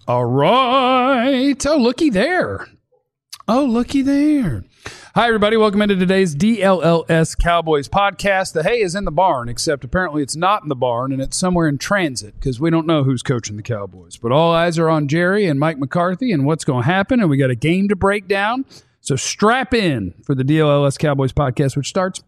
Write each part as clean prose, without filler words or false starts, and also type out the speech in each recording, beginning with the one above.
All right. Oh, looky there. Hi, everybody. Welcome into today's DLLS Cowboys podcast. The hay is in the barn, except apparently it's not in the barn, and it's somewhere in transit because we don't know who's coaching the Cowboys. But all eyes are on Jerry and Mike McCarthy and what's going to happen, and we got a game to break down. So strap in for the DLLS Cowboys podcast, which starts...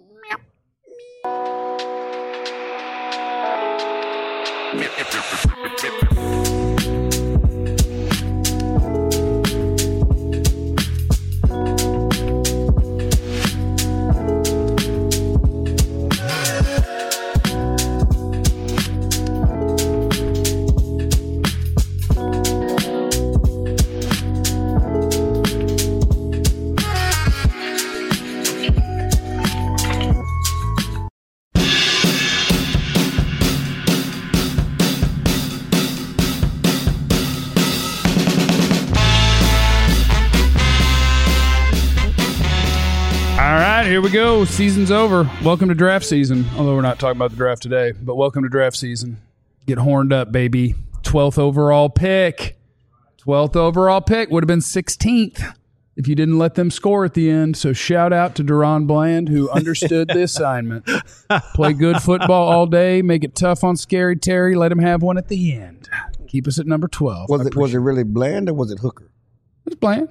Here we go. Season's over. Welcome to draft season. Although we're not talking about the draft today, but welcome to draft season. Get horned up, baby. 12th overall pick. 12th overall pick would have been 16th if you didn't let them score at the end. So shout out to Deron Bland, who understood the assignment. Play good football all day. Make it tough on Scary Terry. Let him have one at the end. Keep us at number 12. Was it really Bland or was it Hooker? It was Bland.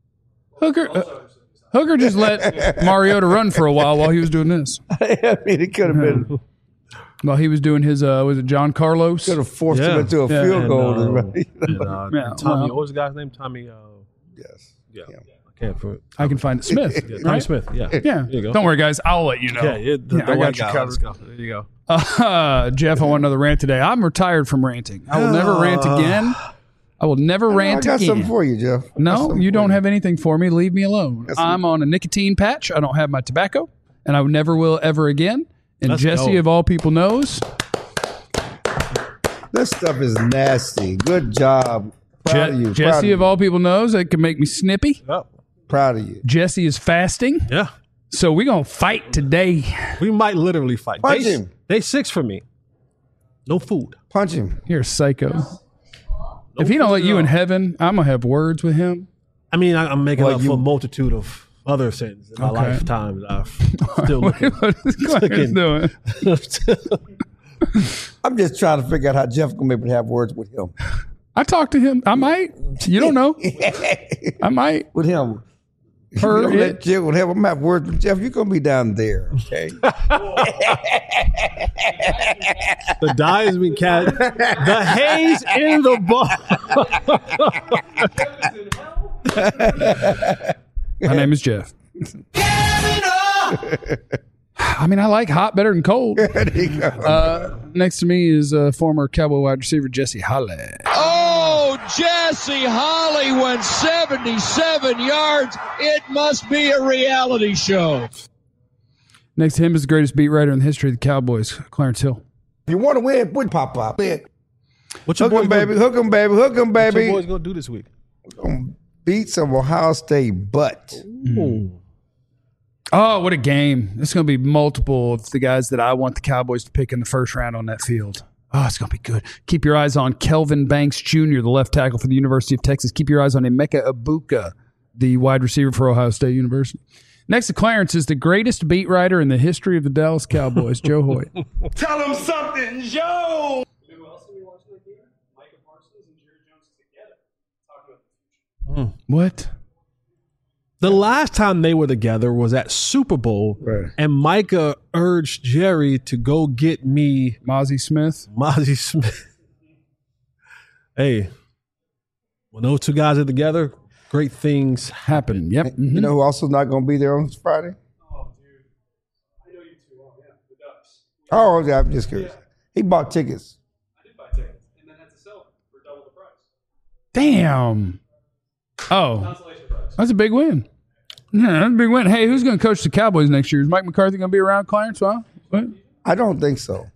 Hooker just let Mariota run for a while he was doing this. I mean, it could have been. While he was doing his, was it John Carlos? Could have forced him into a field goal. Tommy, what was the guy's name? Tommy. Yes. Yeah. I can find it. Smith. Tommy right? Smith. Yeah. There you go. Don't worry, guys. I'll let you know. I got you covered. There you go. Jeff, I want another rant today. I'm retired from ranting. I will never rant again. I will never rant again. I got something for you, Jeff. No, you don't have anything for me. Leave me alone. I'm on a nicotine patch. I don't have my tobacco, and I never will ever again. And Jesse, of all people, knows. This stuff is nasty. Good job. Proud of you. Jesse, of all people, knows it can make me snippy. Yep. Proud of you. Jesse is fasting. Yeah. So we're going to fight today. We might literally fight. Punch him. Day 6 for me. No food. Punch him. You're a psycho. If he don't let you in heaven, I'm going to have words with him. I mean, I'm making up for a multitude of other sins in my lifetime that I've still looking. What is Clarence doing? I'm just trying to figure out how Jeff going to be able to have words with him. I talked to him. I might. You don't know. I might. With him. Her, let Jeff with him. I'm going to have words with Jeff. You're going to be down there, okay? The die has been cast. The hay's in the barn. My name is Jeff. I mean, I like hot better than cold. Next to me is former Cowboy wide receiver Jesse Holley. Oh, Jesse Holley went 77 yards. It must be a reality show. Next to him is the greatest beat writer in the history of the Cowboys, Clarence Hill. If you want to win, put pop. What your Hook him, baby. Hook him, baby. Hook him, baby. What your boys going to do this week? Beat some Ohio State butt. Ooh. Oh, what a game. It's going to be multiple of the guys that I want the Cowboys to pick in the first round on that field. Oh, it's going to be good. Keep your eyes on Kelvin Banks Jr., the left tackle for the University of Texas. Keep your eyes on Emeka Egbuka, the wide receiver for Ohio State University. Next to Clarence is the greatest beat writer in the history of the Dallas Cowboys, Joe Hoyt. Tell him something, Joe! You know who else are we watching that game? Micah Parsons and Jerry Jones together. Talking about the future. What? The last time they were together was at Super Bowl, right. And Micah urged Jerry to go get me Mozzie Smith. Hey, when those two guys are together, great things happen. Yep. You know who also not going to be there on Friday? Oh, dude. I know you too well. Yeah, the Ducks. Oh, yeah, I'm just curious. He bought tickets. I did buy tickets and then had to sell them for double the price. Damn. Oh, Consolation prize. that's a big win. Yeah, that's a big win. Hey, who's going to coach the Cowboys next year? Is Mike McCarthy going to be around, Clarence? Huh? What? I don't think so.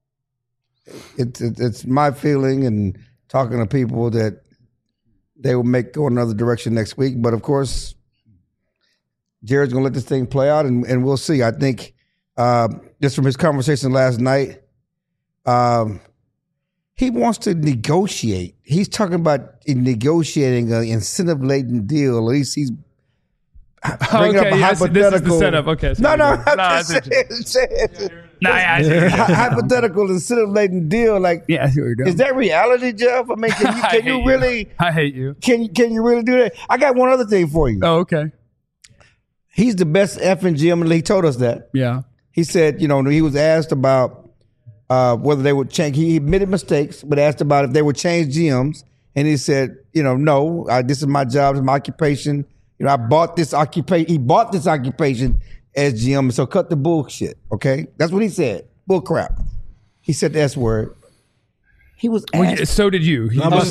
It's my feeling and talking to people that they will go another direction next week. But, of course, Jared's going to let this thing play out, and we'll see. I think just from his conversation last night, He wants to negotiate. He's talking about negotiating an incentive-laden deal. At least he's bringing up a hypothetical. This is the setup. Okay. Hypothetical incentive-laden deal. Like, I see what you're doing. Is that reality, Jeff? I mean, can you really? I hate you. Can you really do that? I got one other thing for you. Oh, okay. He's the best effing GM in the league. He told us that. Yeah. He said, he was asked about whether they would change. He admitted mistakes, but asked about if they would change GMs, and he said, no. This is my job. It's my occupation. I bought this occupation. He bought this occupation as GM, so cut the bullshit. Okay, that's what he said. Bull crap. He said the S word. He was asked. So did you. Turn around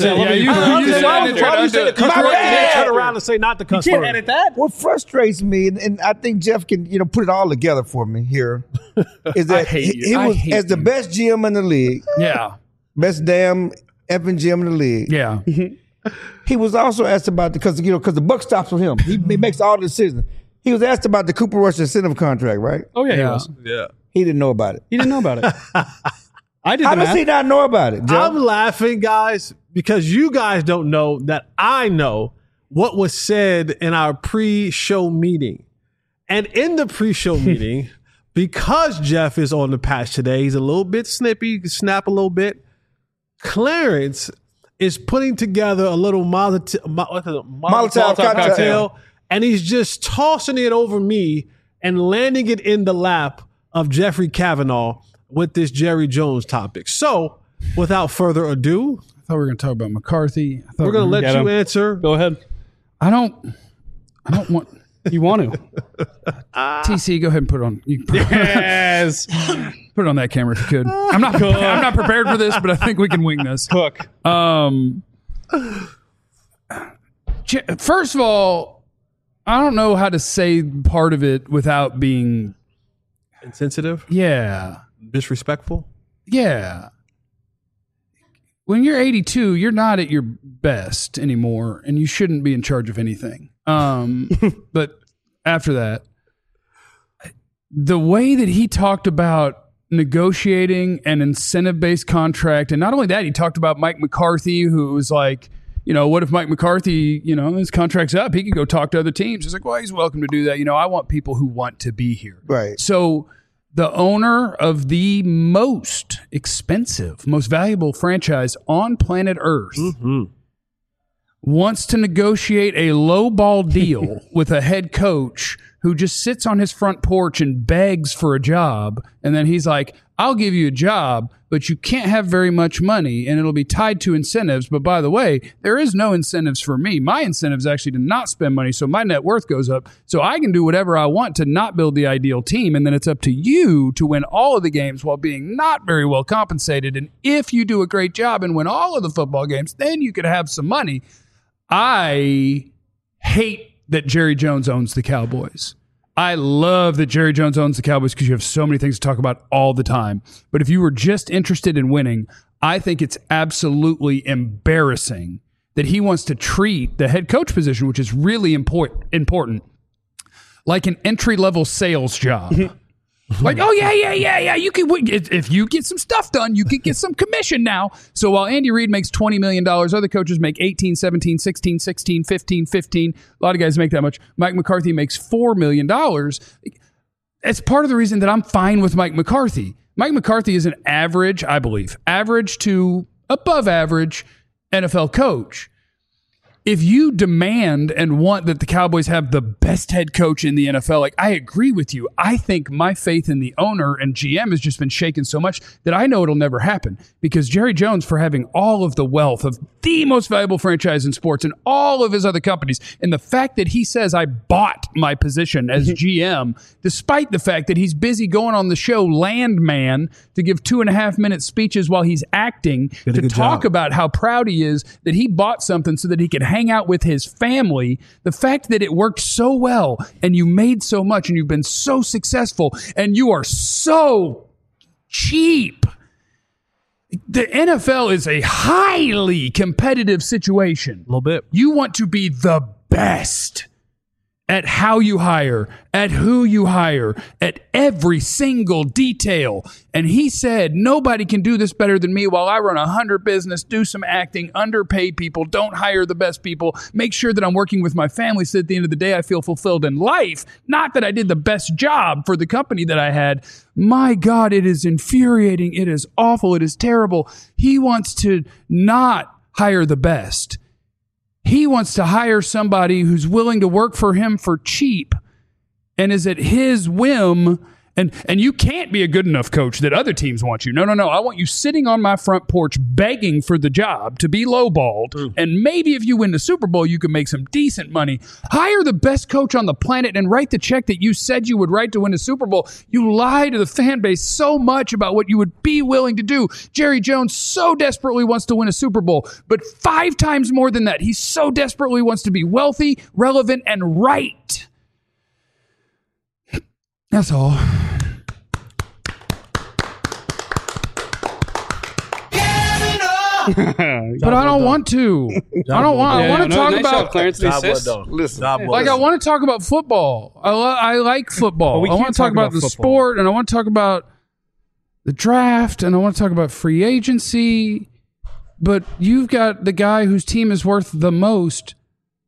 and say not the cuss word. You can't edit that. What frustrates me, and I think Jeff can, put it all together for me here, is that he was as the best GM in the league. Yeah. Best damn effing GM in the league. Yeah. He was also asked about because the buck stops with him. He makes all the decisions. He was asked about the Cooper Rush incentive contract, right? Oh yeah, he was. Yeah. He didn't know about it. He didn't know about it. I did. How does he not know about it, Jeff? I'm laughing, guys, because you guys don't know that I know what was said in our pre-show meeting. And in the pre-show meeting, because Jeff is on the patch today, he's a little bit snippy, he can snap a little bit. Clarence is putting together a little Molotov cocktail, and he's just tossing it over me and landing it in the lap of Jeffrey Kavanaugh with this Jerry Jones topic. So, without further ado, I thought we were going to talk about McCarthy. We're going to let you answer. Go ahead. I don't want. You want to? TC, go ahead and put it on. You can Yes. put it on that camera if you could. I'm not prepared for this, but I think we can wing this. Hook. First of all, I don't know how to say part of it without being Insensitive? Yeah. Disrespectful? Yeah. When you're 82, you're not at your best anymore, and you shouldn't be in charge of anything. But after that, the way that he talked about negotiating an incentive-based contract, and not only that, he talked about Mike McCarthy, who was like, what if Mike McCarthy, his contract's up, he could go talk to other teams. He's like, well, he's welcome to do that. I want people who want to be here. Right. So the owner of the most expensive, most valuable franchise on planet Earth wants to negotiate a lowball deal with a head coach who just sits on his front porch and begs for a job. And then he's like, I'll give you a job, but you can't have very much money and it'll be tied to incentives. But by the way, there is no incentives for me. My incentive is actually to not spend money, so my net worth goes up. So I can do whatever I want to not build the ideal team. And then it's up to you to win all of the games while being not very well compensated. And if you do a great job and win all of the football games, then you could have some money. I hate that Jerry Jones owns the Cowboys. I love that Jerry Jones owns the Cowboys because you have so many things to talk about all the time. But if you were just interested in winning, I think it's absolutely embarrassing that he wants to treat the head coach position, which is really important, like an entry-level sales job. Like, oh, yeah. You can, if you get some stuff done, you can get some commission now. So while Andy Reid makes $20 million, other coaches make 18, 17, 16, 16, 15, 15. A lot of guys make that much. Mike McCarthy makes $4 million. It's part of the reason that I'm fine with Mike McCarthy. Mike McCarthy is an average, I believe, average to above average NFL coach. If you demand and want that the Cowboys have the best head coach in the NFL, like, I agree with you. I think my faith in the owner and GM has just been shaken so much that I know it'll never happen, because Jerry Jones, for having all of the wealth of the most valuable franchise in sports and all of his other companies, and the fact that he says I bought my position as GM, despite the fact that he's busy going on the show Landman to give 2.5-minute speeches while he's acting to talk about how proud he is that he bought something so that he could hang out with his family. The fact that it worked so well and you made so much and you've been so successful and you are so cheap. The NFL is a highly competitive situation. A little bit. You want to be the best. at how you hire, at who you hire, at every single detail. And he said, nobody can do this better than me while I run 100 business, do some acting, underpay people, don't hire the best people, make sure that I'm working with my family so at the end of the day I feel fulfilled in life. Not that I did the best job for the company that I had. My God, it is infuriating. It is awful. It is terrible. He wants to not hire the best. He wants to hire somebody who's willing to work for him for cheap and is at his whim. And you can't be a good enough coach that other teams want you. No. I want you sitting on my front porch begging for the job to be lowballed. And maybe if you win the Super Bowl, you can make some decent money. Hire the best coach on the planet and write the check that you said you would write to win a Super Bowl. You lie to the fan base so much about what you would be willing to do. Jerry Jones so desperately wants to win a Super Bowl, but 5 times more than that, he so desperately wants to be wealthy, relevant, and right. That's all. But I don't want to. I want to talk about Clarence. Listen, I want to talk about football. I like football. Well, I want to talk about the sport, and I want to talk about the draft, and I want to talk about free agency. But you've got the guy whose team is worth the most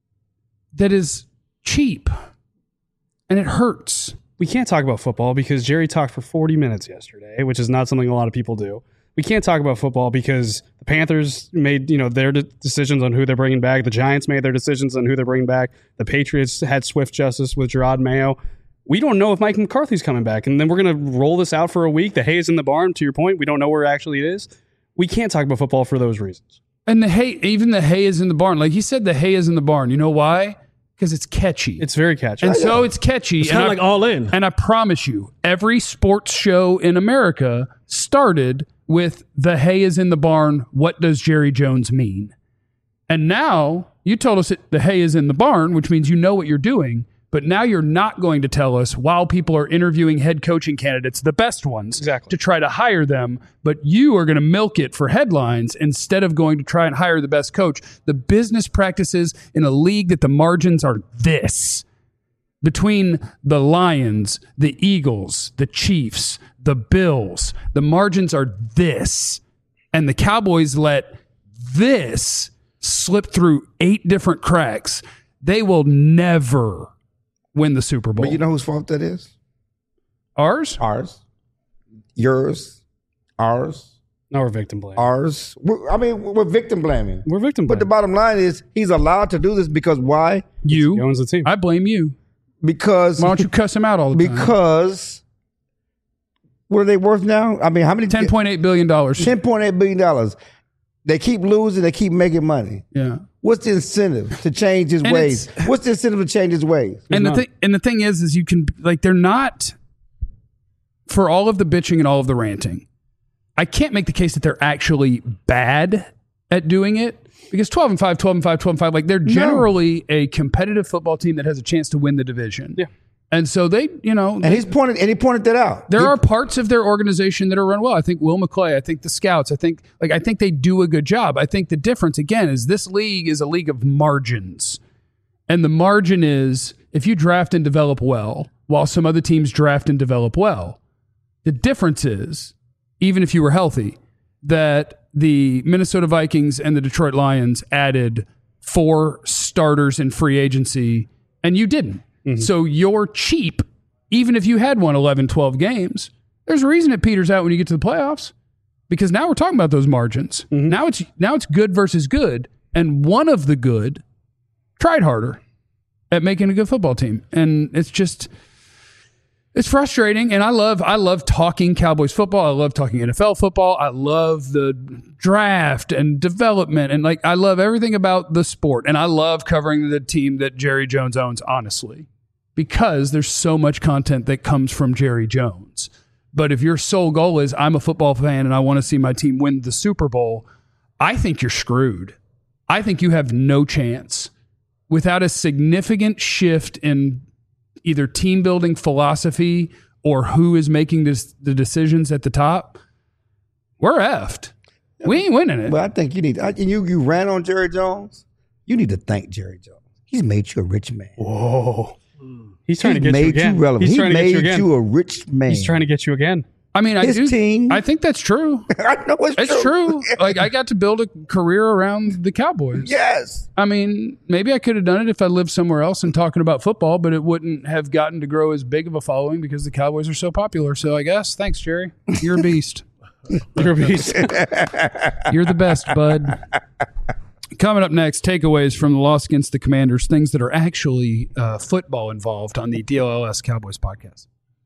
that is cheap, and it hurts. We can't talk about football because Jerry talked for 40 minutes yesterday, which is not something a lot of people do. We can't talk about football because the Panthers made their decisions on who they're bringing back. The Giants made their decisions on who they're bringing back. The Patriots had swift justice with Gerard Mayo. We don't know if Mike McCarthy's coming back, and then we're going to roll this out for a week. The hay is in the barn, to your point. We don't know where actually it is. We can't talk about football for those reasons. And the hay is in the barn. Like he said, the hay is in the barn. You know why? Because it's catchy. It's very catchy. And so it's catchy. It's kind of like All In. And I promise you, every sports show in America started with the hay is in the barn. What does Jerry Jones mean? And now you told us the hay is in the barn, which means you know what you're doing. But now you're not going to tell us while people are interviewing head coaching candidates, the best ones, exactly, to try to hire them. But you are going to milk it for headlines instead of going to try and hire the best coach. The business practices in a league that the margins are this. Between the Lions, the Eagles, the Chiefs, the Bills, the margins are this. And the Cowboys let this slip through 8 different cracks. They will never win the Super Bowl. But you know whose fault that is? Ours? Ours. Yours. Ours. No, we're victim blaming. Ours. We're victim blaming. We're victim blaming. But the bottom line is he's allowed to do this because why? You. He owns the team. I blame you. Because why don't you cuss him out all the time? Because what are they worth now? I mean, how many? $10.8 billion. $10.8 billion. They keep losing. They keep making money. Yeah. What's the incentive to change his ways? What's the incentive to change his ways? And the thing is you can, like, they're not, for all of the bitching and all of the ranting, I can't make the case that they're actually bad at doing it. Because 12-5, 12-5, 12-5, like they're generally a competitive football team that has a chance to win the division. Yeah. And so they, and he pointed that out. There are parts of their organization that are run well. I think Will McClay, I think the scouts, I think they do a good job. I think the difference again is this league is a league of margins. And the margin is if you draft and develop well, while some other teams draft and develop well, the difference is, even if you were healthy, that the Minnesota Vikings and the Detroit Lions added 4 starters in free agency, and you didn't. Mm-hmm. So you're cheap, even if you had won 11, 12 games. There's a reason it peters out when you get to the playoffs, because now we're talking about those margins. Mm-hmm. Now it's good versus good, and one of the good tried harder at making a good football team, and it's frustrating, and I love talking Cowboys football. I love talking NFL football. I love the draft and development, and I love everything about the sport. And I love covering the team that Jerry Jones owns, honestly, because there's so much content that comes from Jerry Jones. But if your sole goal is I'm a football fan and I want to see my team win the Super Bowl, I think you're screwed. I think you have no chance without a significant shift in either team building philosophy or who is making the decisions at the top. We're effed. We ain't winning it. But I think you ran on Jerry Jones. You need to thank Jerry Jones. He's made you a rich man. Whoa. He's trying to get you made again. you relevant. He's He trying to get you made again. you a rich man. He's trying to get you again. I mean, His team. I think that's true. I know It's true. Like, I got to build a career around the Cowboys. Yes. I mean, maybe I could have done it if I lived somewhere else and talking about football, but it wouldn't have gotten to grow as big of a following because the Cowboys are so popular. So I guess, thanks, Jerry. You're a beast. You're a beast. You're the best, bud. Coming up next, takeaways from the loss against the Commanders, things that are actually football involved on the DLLS Cowboys podcast.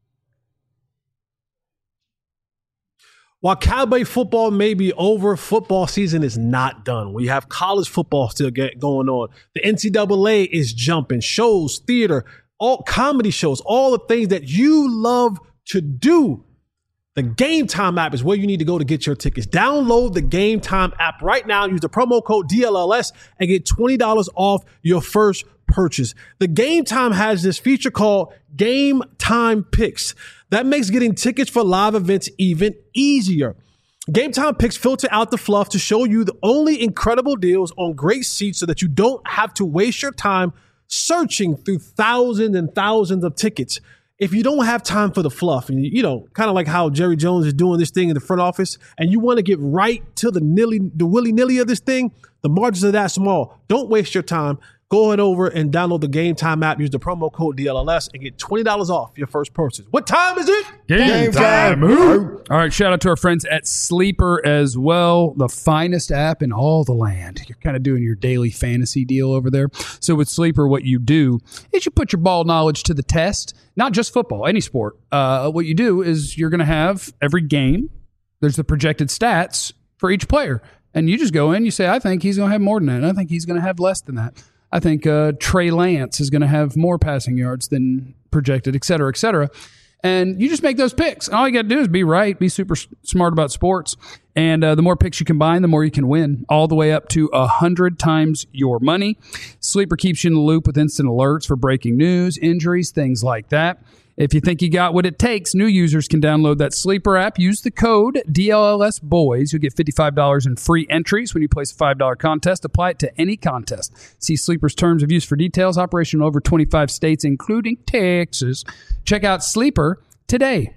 While Cowboy football may be over, football season is not done. We have college football still going on. The NCAA is jumping. Shows, theater, all comedy shows, all the things that you love to do. The Game Time app is where you need to go to get your tickets. Download the Game Time app right now. Use the promo code DLLS and get $20 off your first purchase. The Game Time has this feature called Game Time Picks. That makes getting tickets for live events even easier. Game Time Picks filter out the fluff to show you the only incredible deals on great seats so that you don't have to waste your time searching through thousands and thousands of tickets. If you don't have time for the fluff, and kind of like how Jerry Jones is doing this thing in the front office, and you want to get right to the willy-nilly of this thing, the margins are that small. Don't waste your time. Go ahead over and download the Game Time app. Use the promo code DLLS and get $20 off your first purchase. What time is it? Game time. All right, shout out to our friends at Sleeper as well, the finest app in all the land. You're kind of doing your daily fantasy deal over there. So with Sleeper, what you do is you put your ball knowledge to the test, not just football, any sport. What you do is you're going to have every game, there's the projected stats for each player. And you just go in, you say, I think he's going to have more than that. And I think he's going to have less than that. I think Trey Lance is going to have more passing yards than projected, et cetera, et cetera. And you just make those picks. All you got to do is be right, be super smart about sports. And the more picks you combine, the more you can win, all the way up to 100 times your money. Sleeper keeps you in the loop with instant alerts for breaking news, injuries, things like that. If you think you got what it takes, new users can download that Sleeper app. Use the code DLLSBOYS. You'll get $55 in free entries when you place a $5 contest. Apply it to any contest. See Sleeper's terms of use for details. Operation in over 25 states, including Texas. Check out Sleeper today.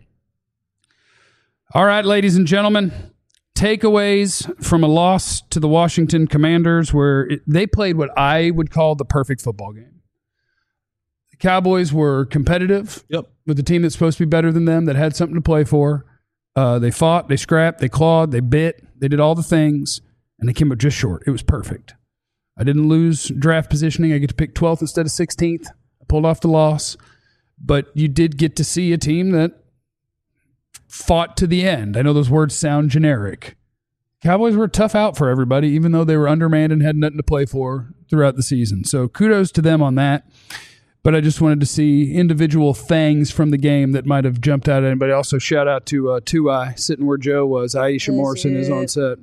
All right, ladies and gentlemen, takeaways from a loss to the Washington Commanders where they played what I would call the perfect football game. The Cowboys were competitive with the team that's supposed to be better than them, that had something to play for. They fought, they scrapped, they clawed, they bit, they did all the things, and they came up just short. It was perfect. I didn't lose draft positioning. I get to pick 12th instead of 16th. I pulled off the loss. But you did get to see a team that fought to the end. I know those words sound generic. Cowboys were a tough out for everybody, even though they were undermanned and had nothing to play for throughout the season. So kudos to them on that. But I just wanted to see individual things from the game that might have jumped out at anybody. Also, shout out to 2I, sitting where Joe was. Aisha Morrison is on set.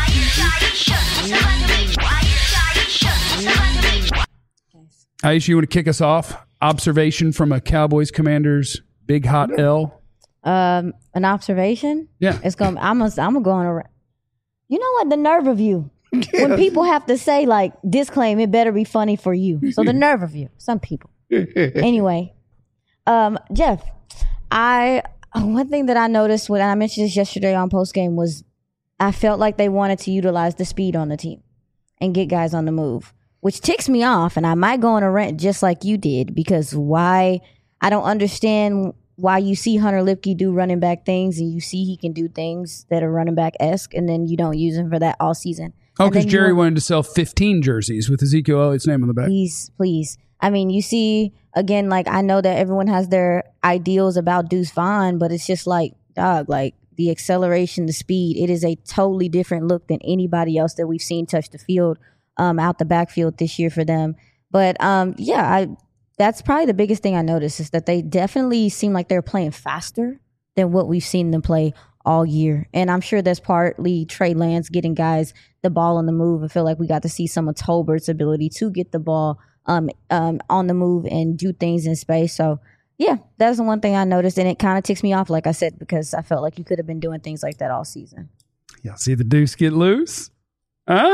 Aisha, you want to kick us off? Observation from a Cowboys Commanders big hot L. An observation? Yeah. I'm gonna go on a. You know what? The nerve of you. When people have to say, like, disclaim, it better be funny for you. So the nerve of you. Some people. Anyway, Jeff, one thing that I noticed when I mentioned this yesterday on postgame was I felt like they wanted to utilize the speed on the team and get guys on the move, which ticks me off. And I might go on a rant just like you did, because I don't understand why you see Hunter Lipke do running back things and you see he can do things that are running back-esque, and then you don't use him for that all season. Oh, because Jerry wanted to sell 15 jerseys with Ezekiel Elliott's name on the back. Please. I mean, you see, again, like, I know that everyone has their ideals about Deuce Vaughn, but it's just like, dog, like the acceleration, the speed, it is a totally different look than anybody else that we've seen touch the field out the backfield this year for them. But that's probably the biggest thing I noticed, is that they definitely seem like they're playing faster than what we've seen them play all year. And I'm sure that's partly Trey Lance getting guys the ball on the move. I feel like we got to see some of Tolbert's ability to get the ball on the move and do things in space. So, yeah, that's the one thing I noticed. And it kind of ticks me off, like I said, because I felt like you could have been doing things like that all season. Y'all see the Deuce get loose? Huh?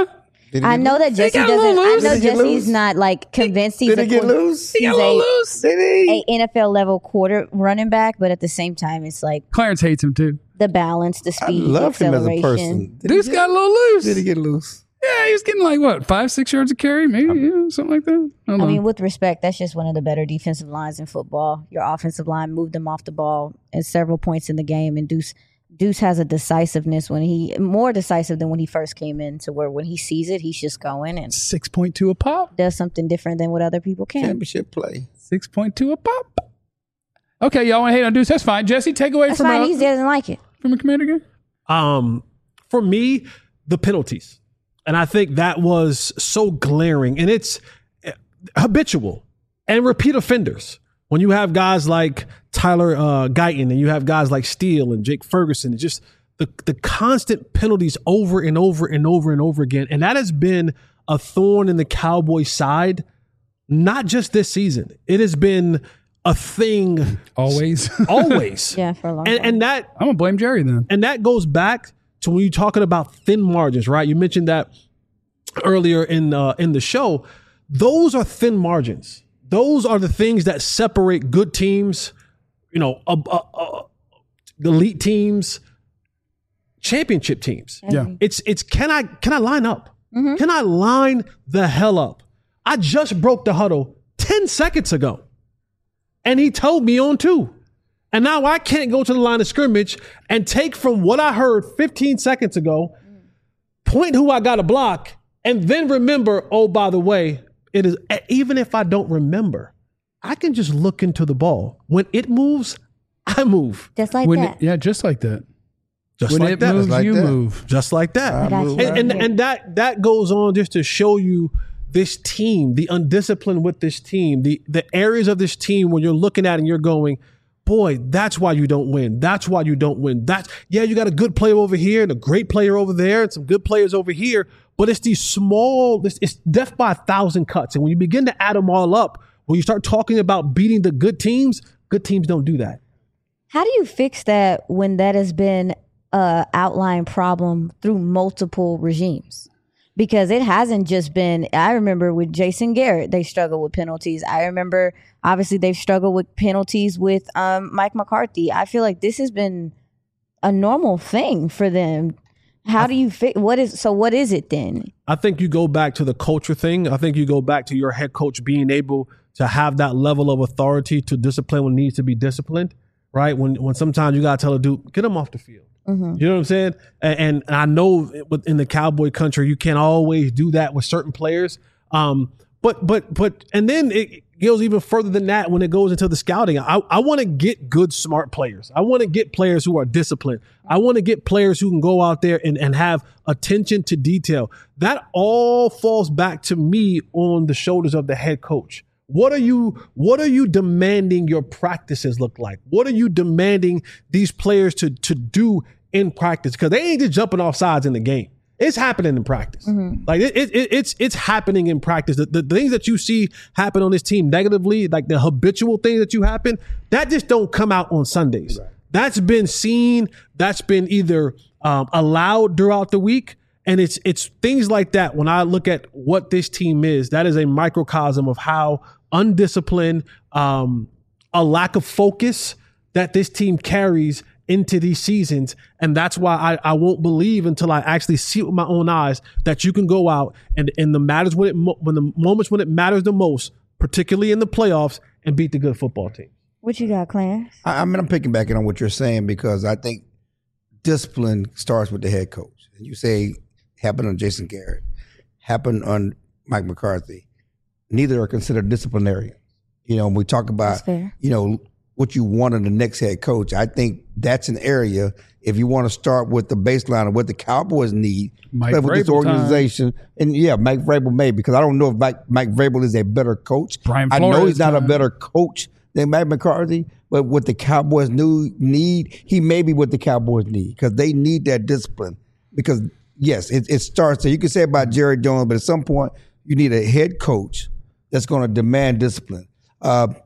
I know that Jesse got a little doesn't. I loose. know Did he get Jesse's loose? not like convinced he's Did he get loose? He got a little loose. Did he? a NFL level quarter running back, but at the same time, it's like Clarence hates him too. the balance, the I speed, love him as a acceleration. person. Did he Dude's get- got a little loose. Did he get loose? Yeah, he was getting like what, 5-6 yards of carry, maybe, yeah, something like that. I don't I know. mean, with respect, that's just one of the better defensive lines in football. Your offensive line moved them off the ball at several points in the game, and Deuce has a decisiveness more decisive than when he first came in, to where when he sees it, he's just going and 6.2 a pop. does something different than what other people can. Championship play. 6.2 a pop. Okay, y'all want to hate on Deuce? That's fine. Jesse, take away That's from fine. He doesn't like it. from a Commander game. For me, the penalties. And I think that was so glaring. And it's habitual and repeat offenders. When you have guys like Tyler Guyton and you have guys like Steele and Jake Ferguson, it's just the constant penalties over and over and over and over again. And that has been a thorn in the Cowboys' side, not just this season. It has been a thing Always. always. Yeah, for a long time. And that I'm going to blame Jerry then. and that goes back to when you're talking about thin margins, right? You mentioned that earlier in the show. Those are thin margins. Those are the things that separate good teams, elite teams, championship teams. Yeah. It's can I line up? Can I line the hell up? I just broke the huddle 10 seconds ago, and he told me on 2. And now I can't go to the line of scrimmage and take from what I heard 15 seconds ago, point who I got to block, and then remember, oh, by the way, it is, even if I don't remember, I can just look into the ball. When it moves, I move. Just like When that. just like that. Just When like it that. moves, like you that. move. Just like that. I got you. And that goes on just to show you this team, the undisciplined with this team, the areas of this team when you're looking at it and you're going, boy, that's why you don't win. That's why you don't win. You got a good player over here and a great player over there and some good players over here, but it's these small, it's death by 1,000 cuts. And when you begin to add them all up, when you start talking about beating the good teams don't do that. How do you fix that when that has been a outlying problem through multiple regimes? Because it hasn't just been, I remember with Jason Garrett, they struggled with penalties. I remember, obviously, they've struggled with penalties with Mike McCarthy. I feel like this has been a normal thing for them. How do you fix, what is it then? I think you go back to the culture thing. I think you go back to your head coach being able to have that level of authority to discipline when needs to be disciplined, right? When sometimes you got to tell a dude, get him off the field. You know what I'm saying? And I know in the Cowboy country, you can't always do that with certain players. But and then it goes even further than that when it goes into the scouting. I want to get good, smart players. I want to get players who are disciplined. I want to get players who can go out there and have attention to detail. That all falls back to me on the shoulders of the head coach. What are you demanding your practices look like? What are you demanding these players to do in practice? Because they ain't just jumping off sides in the game. It's happening in practice. Like it's happening in practice. The things that you see happen on this team negatively, like the habitual things that you happen, that just don't come out on Sundays. Right. That's been seen. That's been either allowed throughout the week. And it's things like that. When I look at what this team is, that is a microcosm of how undisciplined, a lack of focus that this team carries into these seasons. And that's why I won't believe until I actually see it with my own eyes that you can go out and in the matters when the moments when it matters the most, particularly in the playoffs, and beat the good football team. What you got, Clarence? I'm picking back on what you're saying because I think discipline starts with the head coach. And you say happened on Jason Garrett, happened on Mike McCarthy. Neither are considered disciplinarians. When we talk about, what you want in the next head coach, I think that's an area, if you want to start with the baseline of what the Cowboys need with this organization. Time. And Mike Vrabel may, because I don't know if Mike Vrabel is a better coach. I know he's not a better coach than Mike McCarthy, but what the Cowboys need, he may be what the Cowboys need because they need that discipline. Because, yes, it starts. So you can say about Jerry Jones, but at some point you need a head coach that's going to demand discipline.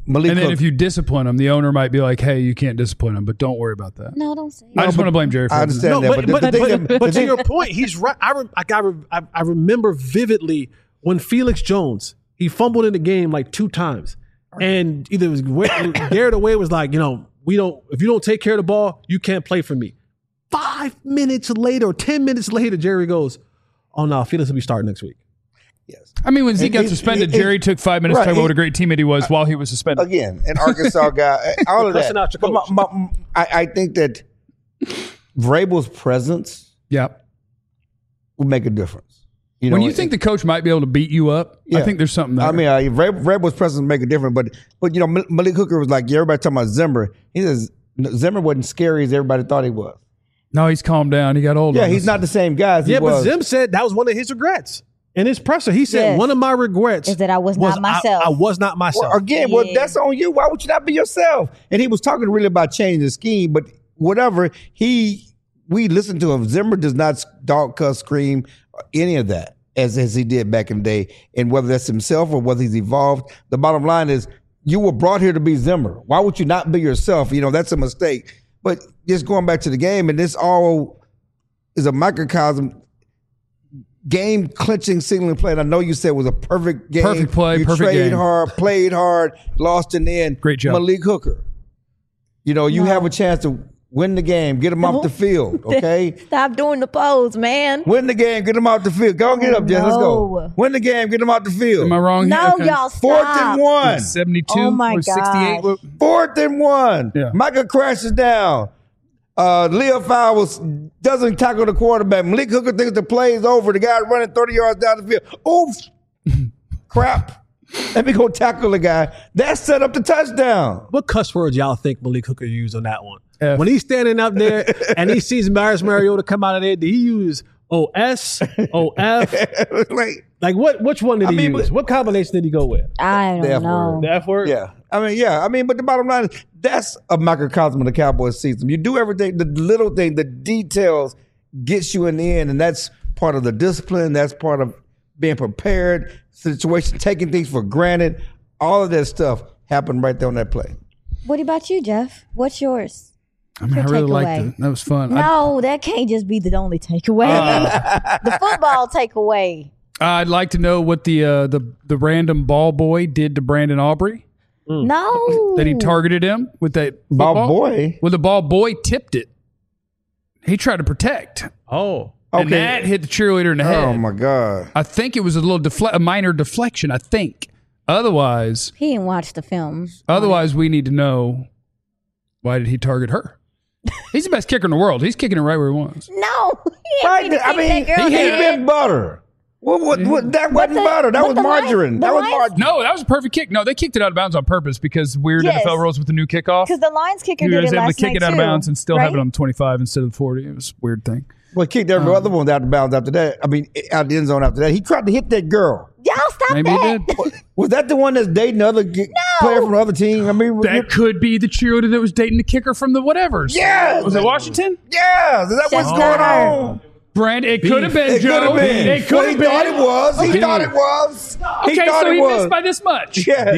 Malik And then Hooker. if you discipline him, the owner might be like, "Hey, you can't discipline him, but don't worry about that." No, don't say I it. just want to blame Jerry. For I that. understand No, that, but, the thing that- to your point, he's right. I remember vividly when Felix Jones, he fumbled in the game like 2 times. And either it was Garrett Away was like, if you don't take care of the ball, you can't play for me. 5 minutes later, or 10 minutes later, Jerry goes, "Oh no, Felix will be starting next week." Yes. I mean, when Zeke got He- suspended, he- Jerry took 5 minutes to right, talk about he- what a great teammate he was while he was suspended. Again, an Arkansas guy, all of Cussing that. out your But coach. I think that Vrabel's presence Yeah. will make a difference. When you think the coach might be able to beat you up, I Yeah. think there's something there. I mean, Vrabel's presence will make a difference, but Malik Hooker was like, everybody talking about Zimmer. He says Zimmer wasn't scary as everybody thought he was. no, he's calmed down. He got older. Yeah, he's not the same guy as he Yeah, but was. Zim said that was one of his regrets. In his presser, he said, Yes. one of my regrets Is that I was not myself. I was not myself. Well, again, that's on you. Why would you not be yourself? And he was talking really about changing the scheme, but whatever. We listened to him. Zimmer does not dog cuss, scream, any of that as he did back in the day. And whether that's himself or whether he's evolved, the bottom line is you were brought here to be Zimmer. Why would you not be yourself? That's a mistake. But just going back to the game, and this all is a microcosm. Game clinching signaling play. And I know you said it was a perfect game. Perfect play, You perfect traded game. hard, played hard, lost in the end. Great job. Malik Hooker. You have a chance to win the game, get him off the field, okay? Stop doing the pose, man. Win the game, get him off the field. Go get up, Jess. Let's go. No. Win the game, get him off the field. Am I wrong? No, here? y'all Fourth stop. and 1. 72 Oh, my or 68. gosh. 4th and 1. Yeah. Micah crashes down. Leo Fowles doesn't tackle the quarterback. Malik Hooker thinks the play is over. The guy running 30 yards down the field. Oof. Crap. Let me go tackle the guy. That set up the touchdown. What cuss words y'all think Malik Hooker used on that one? F. When he's standing up there and he sees Marius Mariota come out of there, did he use OS, OF? Like, Which one did he use? What combination did he go with? I The F don't know. word. The F word? yeah. I mean, but the bottom line is that's a microcosm of the Cowboys season. You do everything, the little thing, the details gets you in the end, and that's part of the discipline. That's part of being prepared, situation, taking things for granted. All of that stuff happened right there on that play. What about you, Jeff? What's yours? I mean, I Your really liked takeaway. it. That was fun. No, that can't just be the only takeaway. The football takeaway. I'd like to know what the random ball boy did to Brandon Aubrey. No. That he targeted him with that Ball football. boy? Well, the ball boy tipped it. He tried to protect. Oh. And that hit the cheerleader in the head. Oh my God. I think it was a minor deflection, I think. Otherwise, He didn't watch the film. we need to know, why did he target her? He's the best kicker in the world. He's kicking it right where he wants. No. He Right, ain't finna I kick mean, that girl he in the hit head. been butter. What that wasn't the- butter. That but was the Lions- margarine. the That was Lions- margarine. No, that was a perfect kick. No, they kicked it out of bounds on purpose because weird Yes. NFL rules with the new kickoff. Because the Lions kicker He did was it able to last kick night it out of too, bounds and still right? have it on 25 instead of the 40. It was a weird thing. Well, kicked every other one out of bounds after that. I mean, out the end zone after that. He tried to hit that girl. Y'all stop Maybe he that. did. Was that the one that's dating the other player from the other team? I mean, That could be the cheerleader that was dating the kicker from the whatevers. Yes. Was it Washington? yeah, is that what's Just going not her. on? Brand, it could have been, It could Joe. have been. It could Well, have he thought it been. was. He Okay. thought it was. Okay, he thought so it he was. missed by this much. Yeah.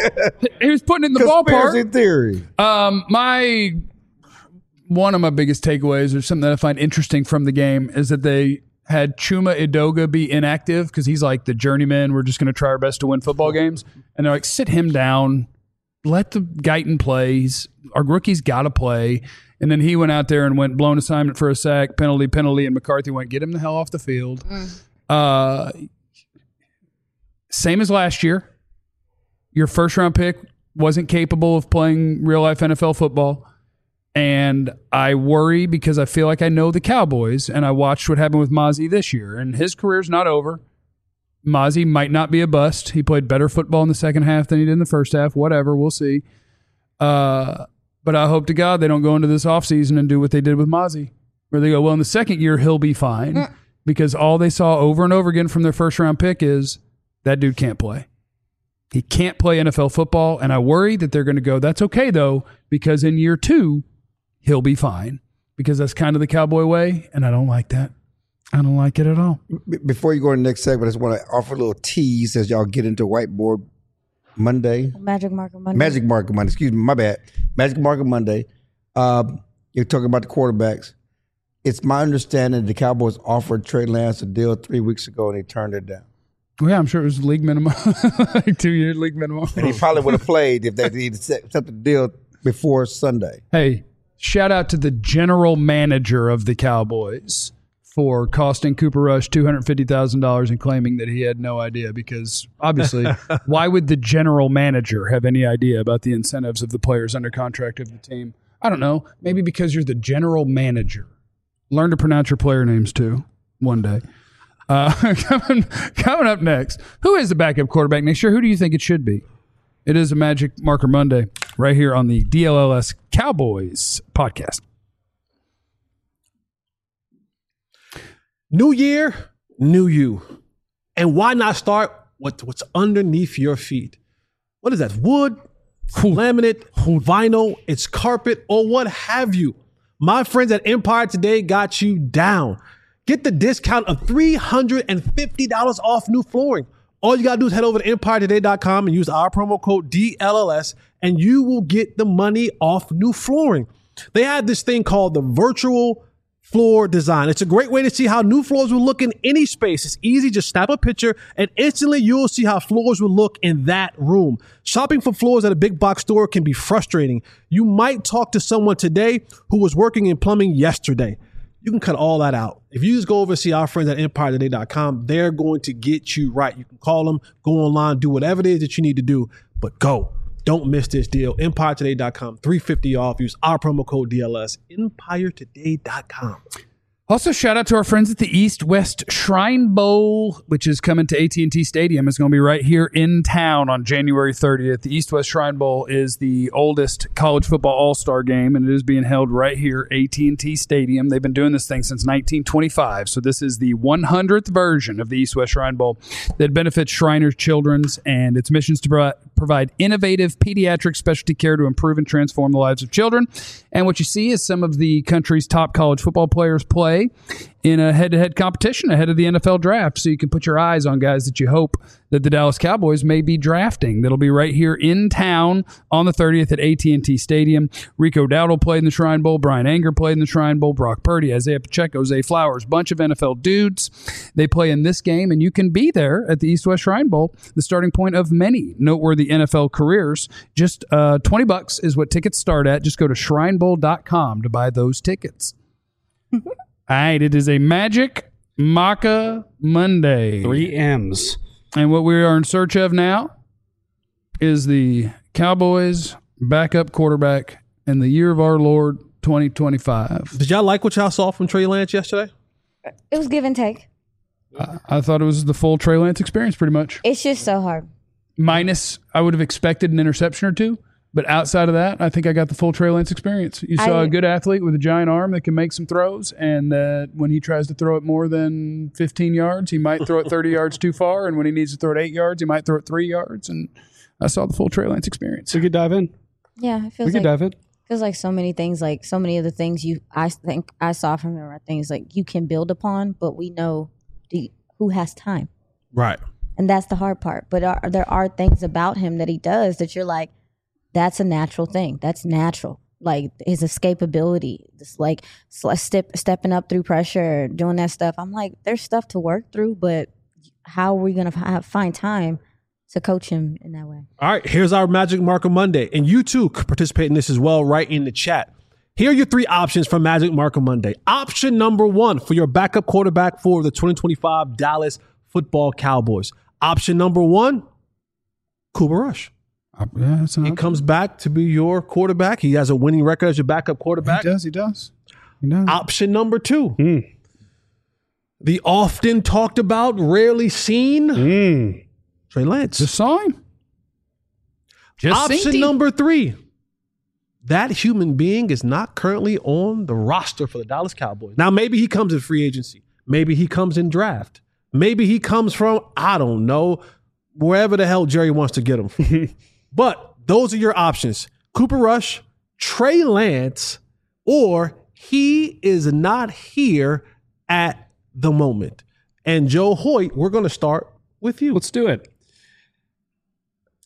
He was putting it in the Conspiracy ballpark. theory. One of my biggest takeaways, or something that I find interesting from the game, is that they had Chuma Edoga be inactive because he's like the journeyman. We're just going to try our best to win football games, and they're like, sit him down, let the Guyton play. Our rookie's got to play. And then he went out there and went blown assignment for a sack, penalty, and McCarthy went, get him the hell off the field. Same as last year. Your first round pick wasn't capable of playing real life NFL football. And I worry because I feel like I know the Cowboys, and I watched what happened with Mozzie this year, and his career's not over. Mozzie might not be a bust. He played better football in the second half than he did in the first half. Whatever, we'll see. But I hope to God they don't go into this offseason and do what they did with Mozzie, where they go, well, in the second year, he'll be fine. Because all they saw over and over again from their first round pick is that dude can't play. He can't play NFL football. And I worry that they're going to go, that's okay, though, because in year 2, he'll be fine. Because that's kind of the Cowboy way. And I don't like that. I don't like it at all. Before you go to the next segment, I just want to offer a little tease as y'all get into whiteboard Monday. Magic Marker Monday. Magic Marker Monday. Excuse me, my bad. Magic Marker Monday. You're talking about the quarterbacks. It's my understanding the Cowboys offered Trey Lance a deal 3 weeks ago and he turned it down. Well, yeah, I'm sure it was league minimum, like 2-year league minimum. And he probably would have played if they accepted the deal before Sunday. Hey, shout out to the general manager of the Cowboys for costing Cooper Rush $250,000 and claiming that he had no idea, because obviously, why would the general manager have any idea about the incentives of the players under contract of the team? I don't know. Maybe because you're the general manager. Learn to pronounce your player names too one day. Coming up next, who is the backup quarterback next year? Who do you think it should be? It is a Magic Marker Monday right here on the DLLS Cowboys podcast. New year, new you. And why not start with what's underneath your feet? What is that? Wood, laminate, vinyl, it's carpet, or what have you. My friends at Empire Today got you down. Get the discount of $350 off new flooring. All you got to do is head over to EmpireToday.com and use our promo code DLLS, and you will get the money off new flooring. They have this thing called the virtual floor design. It's a great way to see how new floors will look in any space. It's easy. Just snap a picture and instantly you'll see how floors will look in that room. Shopping for floors at a big box store can be frustrating. You might talk to someone today who was working in plumbing yesterday. You can cut all that out. If you just go over and see our friends at EmpireToday.com, they're going to get you right. You can call them, go online, do whatever it is that you need to do, but go. Don't miss this deal. EmpireToday.com, $350 off. Use our promo code DLS, EmpireToday.com. Also, shout out to our friends at the East West Shrine Bowl, which is coming to AT&T Stadium. It's going to be right here in town on January 30th. The East West Shrine Bowl is the oldest college football all-star game, and it is being held right here, AT&T Stadium. They've been doing this thing since 1925, so this is the 100th version of the East West Shrine Bowl that benefits Shriners Children's, and its mission is to provide innovative pediatric specialty care to improve and transform the lives of children. And what you see is some of the country's top college football players play in a head-to-head competition ahead of the NFL draft, so you can put your eyes on guys that you hope that the Dallas Cowboys may be drafting. That'll be right here in town on the 30th at AT&T Stadium. Rico Dowdle played in the Shrine Bowl. Brian Anger played in the Shrine Bowl. Brock Purdy, Isaiah Pacheco, Zay Flowers, bunch of NFL dudes. They play in this game, and you can be there at the East West Shrine Bowl, the starting point of many noteworthy NFL careers. Just $20 is what tickets start at. Just go to shrinebowl.com to buy those tickets. All right, it is a Magic Maca Monday. 3 M's. And what we are in search of now is the Cowboys backup quarterback in the year of our Lord 2025. Did y'all like what y'all saw from Trey Lance yesterday? It was give and take. I thought it was the full Trey Lance experience pretty much. It's just so hard. Minus, I would have expected an interception or two. But outside of that, I think I got the full Trey Lance experience. You saw a good athlete with a giant arm that can make some throws, and that when he tries to throw it more than 15 yards, he might throw it 30 yards too far, and when he needs to throw it 8 yards, he might throw it 3 yards. And I saw the full Trey Lance experience. We could dive in. Yeah, it feels We could dive in. feels like so many things, like so many of the things I think I saw from him are things like you can build upon, but we know who has time. Right. And that's the hard part. But there are things about him that he does that you're like, that's a natural thing. That's natural. Like his escapability, just like stepping up through pressure, doing that stuff. I'm like, there's stuff to work through, but how are we going to find time to coach him in that way? All right, here's our Magic Marker Monday. And you too could participate in this as well right in the chat. Here are your 3 options for Magic Marker Monday. Option number 1 for your backup quarterback for the 2025 Dallas Football Cowboys. Option number 1, Cooper Rush. Yeah, he comes back to be your quarterback. He has a winning record as your backup quarterback. He does. Option number 2, the often talked about, rarely seen, Trey Lance. Just saw him. Option number 3, that human being is not currently on the roster for the Dallas Cowboys. Now, maybe he comes in free agency. Maybe he comes in draft. Maybe he comes from, I don't know, wherever the hell Jerry wants to get him from. But those are your options. Cooper Rush, Trey Lance, or he is not here at the moment. And Joe Hoyt, we're going to start with you. Let's do it.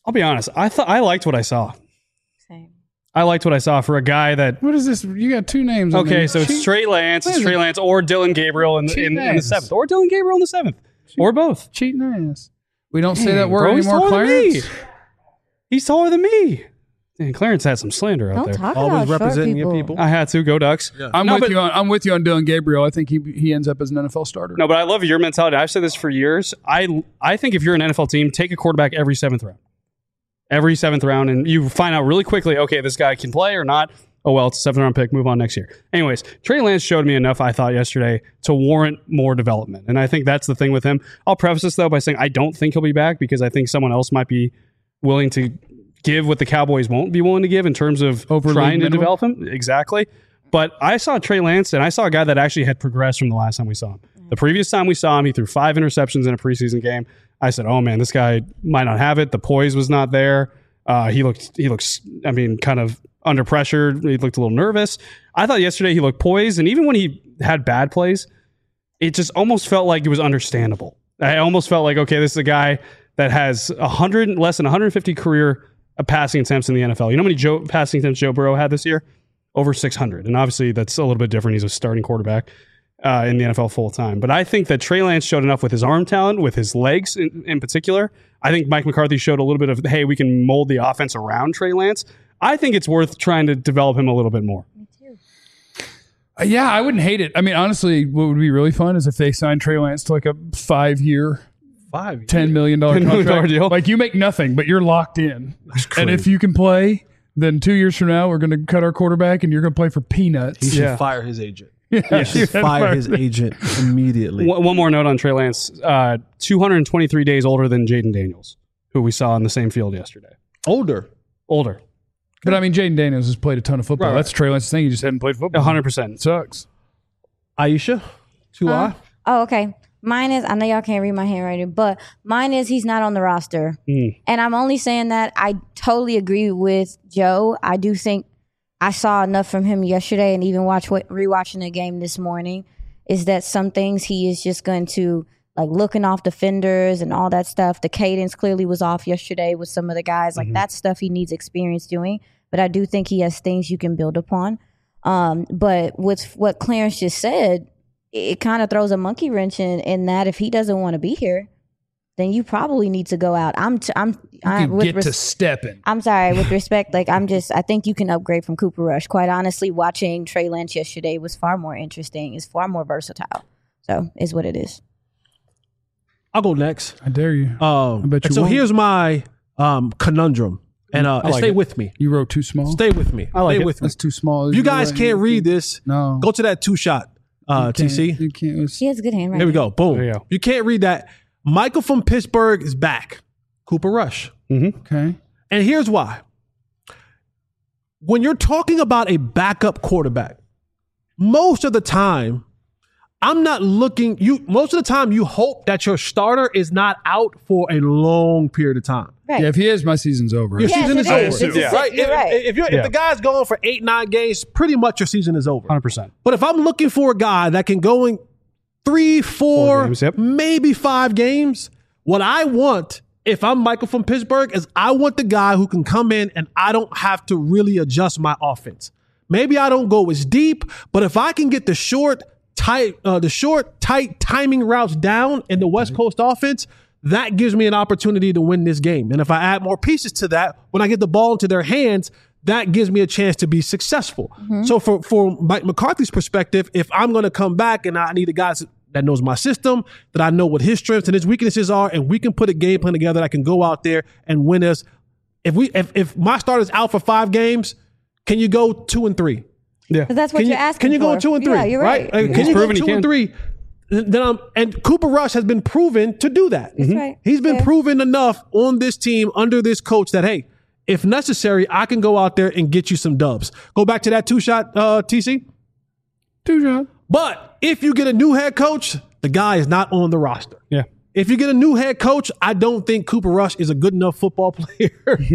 I'll be honest. I liked what I saw. Same. I liked what I saw for a guy that. What is this? You got two names. on Okay, there. so it's Trey Lance. It's Trey Lance or Dylan Gabriel in the Cheating 7th. Or Dylan Gabriel in the 7th. Or both. Cheating ass. We don't say that word Bro, he's anymore, taller than me. Clarence. He's taller than me. And Clarence had some slander out Don't there. talk Always about short representing your people. people. I had to go Ducks. I'm No, with but- you. I'm with you on Dylan Gabriel. I think he ends up as an NFL starter. No, but I love your mentality. I've said this for years. I think if you're an NFL team, take a quarterback every 7th round. Every 7th round, and you find out really quickly, okay, this guy can play or not. Oh, well, it's a 7th round pick. Move on next year. Anyways, Trey Lance showed me enough, I thought, yesterday to warrant more development. And I think that's the thing with him. I'll preface this, though, by saying I don't think he'll be back because I think someone else might be willing to give what the Cowboys won't be willing to give in terms of Overly trying to minimum? develop him. Exactly. But I saw Trey Lance, and I saw a guy that actually had progressed from the last time we saw him. The previous time we saw him, he threw 5 interceptions in a preseason game. I said, oh, man, this guy might not have it. The poise was not there. He looks, I mean, kind of under pressure. He looked a little nervous. I thought yesterday he looked poised, and even when he had bad plays, it just almost felt like it was understandable. I almost felt like, okay, this is a guy that has less than 150 career passing attempts in the NFL. You know how many passing attempts Joe Burrow had this year? Over 600. And obviously that's a little bit different. He's a starting quarterback in the NFL full time. But I think that Trey Lance showed enough with his arm talent, with his legs in particular. I think Mike McCarthy showed a little bit of, hey, we can mold the offense around Trey Lance. I think it's worth trying to develop him a little bit more. Yeah, I wouldn't hate it. I mean, honestly, what would be really fun is if they signed Trey Lance to like a 5-year, $10 million contract. deal. Like you make nothing, but you're locked in. And if you can play, then 2 years from now, we're going to cut our quarterback and you're going to play for peanuts. He should Yeah. fire his agent. Yeah, Just fire his agent immediately. One more note on Trey Lance. 223 days older than Jaden Daniels, who we saw on the same field yesterday. Older. Older. But I mean, Jaden Daniels has played a ton of football. Right. That's Trey Lance's thing. He just hadn't played football. 100%. It sucks. Aisha, 2I. Oh, okay. Mine is, I know y'all can't read my handwriting, but mine is he's not on the roster. And I'm only saying that I totally agree with Joe. I do think I saw enough from him yesterday and even rewatching the game this morning is that some things he is just going to, like looking off defenders and all that stuff. The cadence clearly was off yesterday with some of the guys. Like that stuff he needs experience doing. But I do think he has things you can build upon. But with what Clarence just said, it kind of throws a monkey wrench in that if he doesn't want to be here, then you probably need to go out. To stepping. I'm sorry, with respect, like I think you can upgrade from Cooper Rush. Quite honestly, watching Trey Lance yesterday was far more interesting. It's far more versatile. So is what it is. I'll go next. I dare you. bet you so won't. here's my conundrum. And stay with me. You wrote too small? Stay with me. I like stay it. with me. That's too small. If you guys can't read this, No. go to that 2-shot, TC. You can't. It's- He has good handwriting. Here we go. Boom. There you go. You can't read that. Michael from Pittsburgh is back. Cooper Rush. Okay. And here's why. When you're talking about a backup quarterback, most of the time, most of the time you hope that your starter is not out for a long period of time. Right. Yeah, if he is, my season's over. Your Yes, season it is is. over. It's Right? you're right. If the guy's going for 8-9 games, pretty much your season is over. 100%. But if I'm looking for a guy that can go in 3, 4, games, yep. maybe 5 games, what I want, if I'm Michael from Pittsburgh, is I want the guy who can come in and I don't have to really adjust my offense. Maybe I don't go as deep, but if I can get the short, tight timing routes down in the West Coast offense, that gives me an opportunity to win this game. And if I add more pieces to that, when I get the ball into their hands, that gives me a chance to be successful. So for Mike McCarthy's perspective, if I'm going to come back and I need a guy that knows my system, that I know what his strengths and his weaknesses are, and we can put a game plan together that can go out there and win us. If my starter's out for 5 games, can you go 2-3? Yeah. 'Cause that's what Can you're you, asking can you go for. 2-3? Yeah, you're right. Can He's you go proven he 2 can. and 3? And Cooper Rush has been proven to do that. That's right. He's been Fair. proven enough on this team under this coach that, hey, if necessary, I can go out there and get you some dubs. Go back to that 2-shot, TC. 2-shot. But if you get a new head coach, the guy is not on the roster. Yeah. If you get a new head coach, I don't think Cooper Rush is a good enough football player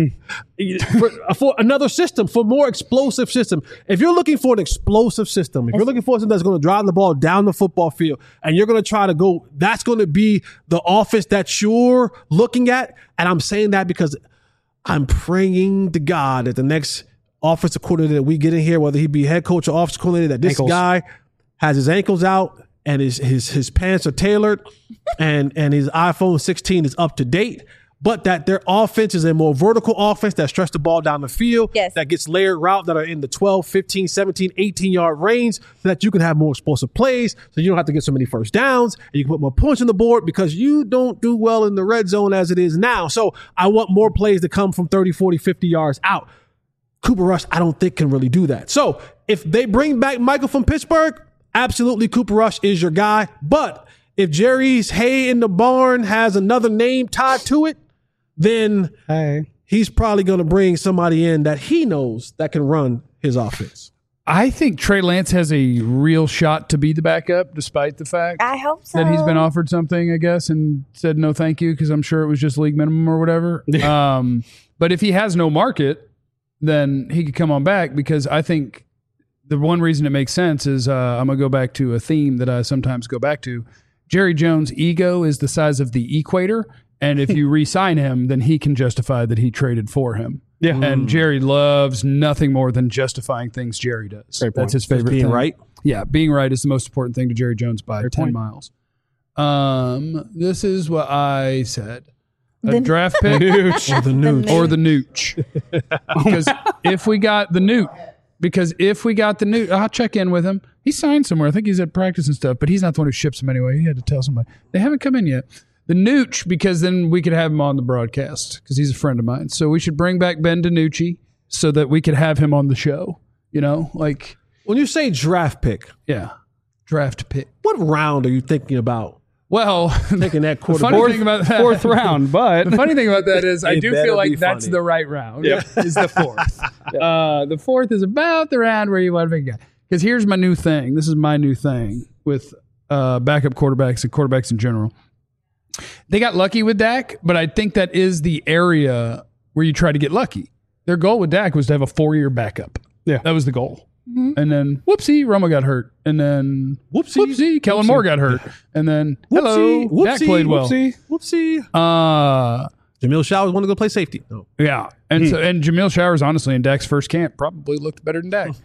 for another system, for more explosive system. If you're looking for an explosive system, if you're looking for something that's going to drive the ball down the football field and you're going to try to go, that's going to be the offense that you're looking at. And I'm saying that because I'm praying to God that the next offensive coordinator that we get in here, whether he be head coach or offensive coordinator, that this guy has his ankles out and his pants are tailored and his iPhone 16 is up to date, but that their offense is a more vertical offense that stretches the ball down the field, that gets layered route that are in the 12, 15, 17, 18-yard range so that you can have more explosive plays so you don't have to get so many first downs and you can put more points on the board because you don't do well in the red zone as it is now. So I want more plays to come from 30, 40, 50 yards out. Cooper Rush, I don't think can really do that. So if they bring back Michael from Pittsburgh, absolutely Cooper Rush is your guy. But if Jerry's hay in the barn has another name tied to it, then he's probably going to bring somebody in that he knows that can run his offense. I think Trey Lance has a real shot to be the backup, despite the fact I hope so. that he's been offered something, I guess, and said no thank you because I'm sure it was just league minimum or whatever. But if he has no market, then he could come on back because I think the one reason it makes sense is I'm going to go back to a theme that I sometimes go back to. Jerry Jones' ego is the size of the equator. And if you re-sign him, then he can justify that he traded for him. Yeah. And Jerry loves nothing more than justifying things Jerry does. That's his favorite thing. Being right? Yeah, being right is the most important thing to Jerry Jones by 10 miles. This is what I said. A draft pick Or the nooch. Because if we got the nooch, I'll check in with him. He signed somewhere. I think he's at practice and stuff, but he's not the one who ships him anyway. He had to tell somebody. They haven't come in yet. The nooch, because then we could have him on the broadcast because he's a friend of mine. So we should bring back Ben DiNucci so that we could have him on the show. You know, like when you say draft pick, draft pick. What round are you thinking about? Well, taking that fourth round, but the funny thing about that is I do feel like that's funny. the right round. Is the fourth. The fourth is about the round where you want to pick a guy. Because here's my new thing. This is my new thing with backup quarterbacks and quarterbacks in general. They got lucky with Dak, but I think that is the area where you try to get lucky. Their goal with Dak was to have a 4-year backup. Yeah. That was the goal. Mm-hmm. And then, whoopsie, Romo got hurt. And then, whoopsie, Kellen Moore got hurt. And then, Dak played well. Whoopsie. Jamil Showers wanted to go play safety. No. Yeah. And so, and Jamil Showers, honestly, in Dak's first camp, probably looked better than Dak.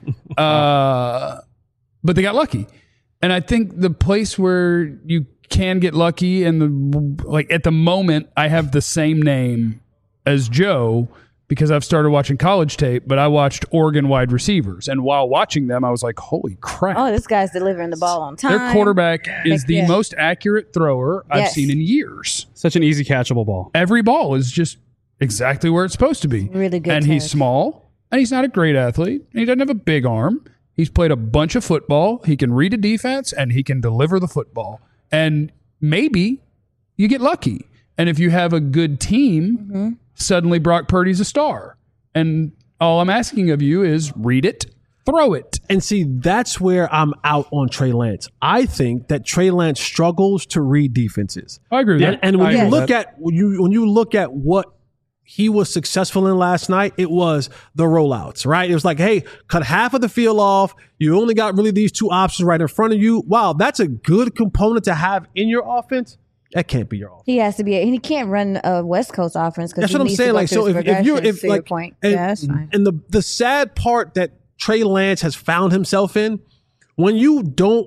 But they got lucky. And I think the place where you can get lucky, and like at the moment, I have the same name as Joe because I've started watching college tape, but I watched Oregon wide receivers. And while watching them, I was like, holy crap. Oh, this guy's delivering the ball on time. Their quarterback is the most accurate thrower I've seen in years. Such an easy catchable ball. Every ball is just exactly where it's supposed to be. Really good. And he's small, and he's not a great athlete, and he doesn't have a big arm. He's played a bunch of football. He can read a defense, and he can deliver the football. And maybe you get lucky. And if you have a good team, suddenly Brock Purdy's a star. And all I'm asking of you is read it, throw it. And see, that's where I'm out on Trey Lance. I think that Trey Lance struggles to read defenses. I agree with that. And when you look at when you look at what he was successful in last night, it was the rollouts, right? It was like, hey, cut half of the field off. You only got really these two options right in front of you. Wow, that's a good component to have in your offense. That can't be your offense. He has to be, and he can't run a West Coast offense because that's what I'm saying. Like, so if you're, if like, point. And, that's fine. And the sad part that Trey Lance has found himself in, when you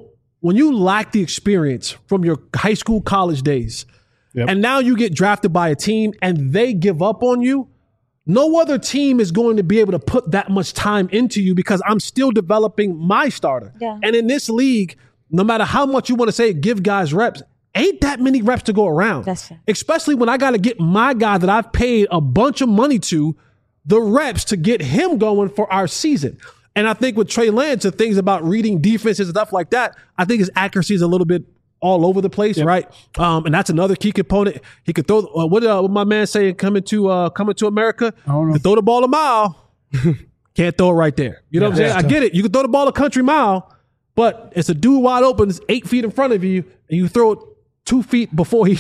lack the experience from your high school, college days, and now you get drafted by a team and they give up on you, no other team is going to be able to put that much time into you because I'm still developing my starter. Yeah. And in this league, no matter how much you want to say give guys reps, ain't that many reps to go around. That's fair. Especially when I got to get my guy that I've paid a bunch of money to the reps to get him going for our season. And I think with Trey Lance, the things about reading defenses and stuff like that, I think his accuracy is a little bit all over the place, right? And that's another key component. He could throw. What my man saying? Coming to America, to throw the ball a mile, can't throw it right there. You know what I'm saying? I get it. You can throw the ball a country mile, but it's a dude wide open, it's 8 feet in front of you, and you throw it 2 feet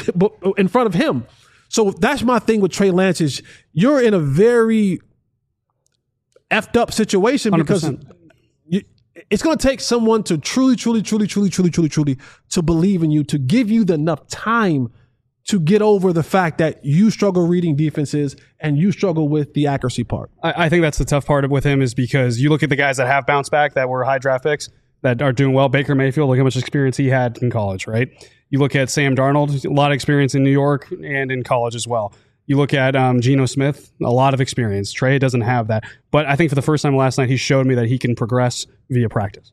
in front of him. So that's my thing with Trey Lance is you're in a very effed up situation 100%. Because it's going to take someone to truly to believe in you, to give you enough time to get over the fact that you struggle reading defenses and you struggle with the accuracy part? I think that's the tough part with him is because you look at the guys that have bounced back that were high draft picks that are doing well. Baker Mayfield, look how much experience he had in college, right? You look at Sam Darnold, a lot of experience in New York and in college as well. You look at Geno Smith, a lot of experience. Trey doesn't have that. But I think for the first time last night, he showed me that he can progress via practice.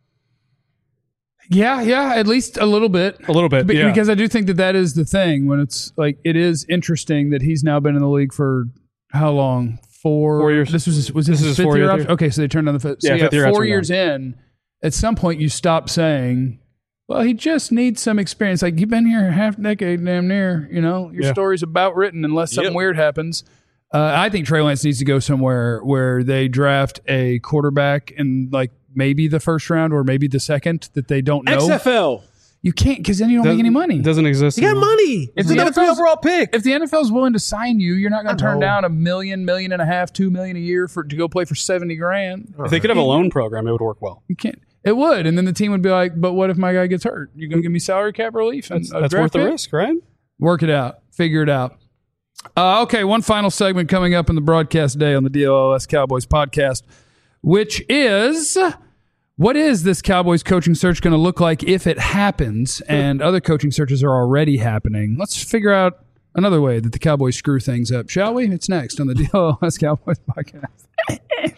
Yeah, at least a little bit. A little bit, yeah. Because I do think that is the thing when it's like, it is interesting that he's now been in the league for how long? 4 years. Was this his fifth 4 year year option? Okay, so they turned on the fifth. So fifth year 4 option years in, at some point you stop saying, well, he just needs some experience. Like, you've been here half a decade, damn near, your story's about written unless something weird happens. I think Trey Lance needs to go somewhere where they draft a quarterback in like maybe the first round or maybe the second that they don't know. XFL. You can't, because then you don't make any money. It doesn't exist. You got money. If the the number 3 overall pick. If the NFL is willing to sign you, you're not going to turn down $1 million, $1.5 million, $2 million a year to go play for $70,000. If they could have a loan program, it would work well. You can't. It would, and then the team would be like, "But what if my guy gets hurt? You gonna give me salary cap relief? And That's worth the risk, right? Work it out. Figure it out." Okay, one final segment coming up in the broadcast day on the DLLS Cowboys podcast, which is, what is this Cowboys coaching search going to look like if it happens? And other coaching searches are already happening. Let's figure out another way that the Cowboys screw things up, shall we? It's next on the DLLS Cowboys podcast.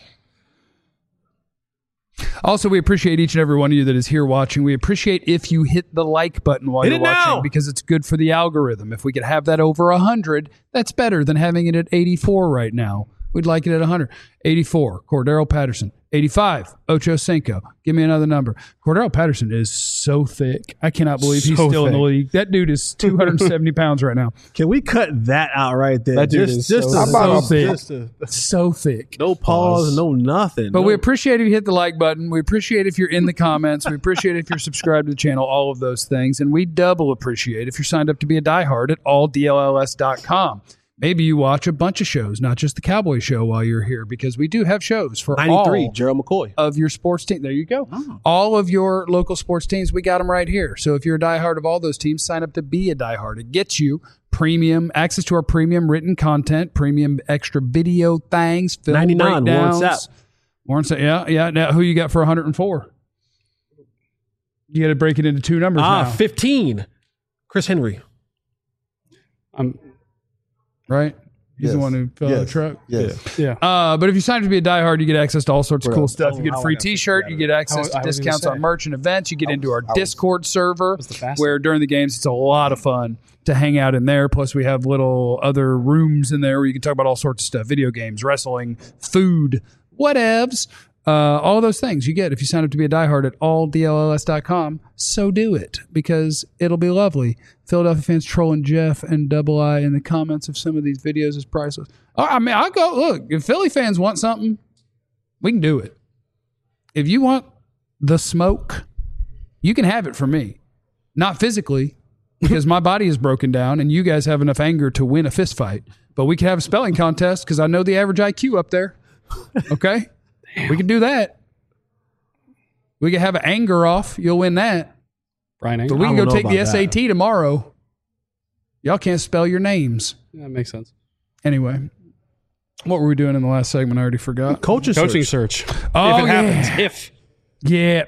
Also, we appreciate each and every one of you that is here watching. We appreciate if you hit the like button while you're watching because it's good for the algorithm. If we could have that over 100, that's better than having it at 84 right now. We'd like it at 100. 84, Cordero Patterson. 85, Ocho Cinco. Give me another number. Cordero Patterson is so thick. I cannot believe he's still in the league. That dude is 270 pounds right now. Can we cut that out right there? That dude is so thick. So thick. No pause, no nothing. But we appreciate if you hit the like button. We appreciate if you're in the comments. We appreciate if you're subscribed to the channel, all of those things. And we double appreciate if you're signed up to be a diehard at alldlls.com. Maybe you watch a bunch of shows, not just the Cowboy show while you're here, because we do have shows for 93, all Gerald McCoy. Of your sports team. There you go. Oh. All of your local sports teams, we got them right here. So if you're a diehard of all those teams, sign up to be a diehard. It gets you premium access to our premium written content, premium extra video things, film 99, breakdowns. Warren Sapp. Yeah. Now, who you got for 104? You got to break it into two numbers now. 15. Chris Henry. Right? He's the one who fell out of the truck. Yes. Yeah. But if you sign up to be a diehard, you get access to all sorts of cool stuff. You get a free T-shirt. You get access to discounts on merch and events. You get into our Discord server, where during the games it's a lot of fun to hang out in there. Plus, we have little other rooms in there where you can talk about all sorts of stuff: video games, wrestling, food, whatevs. All those things you get if you sign up to be a diehard at alldlls.com. So do it, because it'll be lovely. Philadelphia fans trolling Jeff and Double I in the comments of some of these videos is priceless. I mean, I'll go, look, if Philly fans want something, we can do it. If you want the smoke, you can have it from me. Not physically, because my body is broken down and you guys have enough anger to win a fist fight. But we can have a spelling contest because I know the average IQ up there. Okay? We can do that. We can have an anger off. You'll win that. Brian But Anger. we can go take the SAT tomorrow. Y'all can't spell your names. Yeah, that makes sense. Anyway, what were we doing in the last segment? I already forgot. Coaching search. Oh, if it happens. Yeah.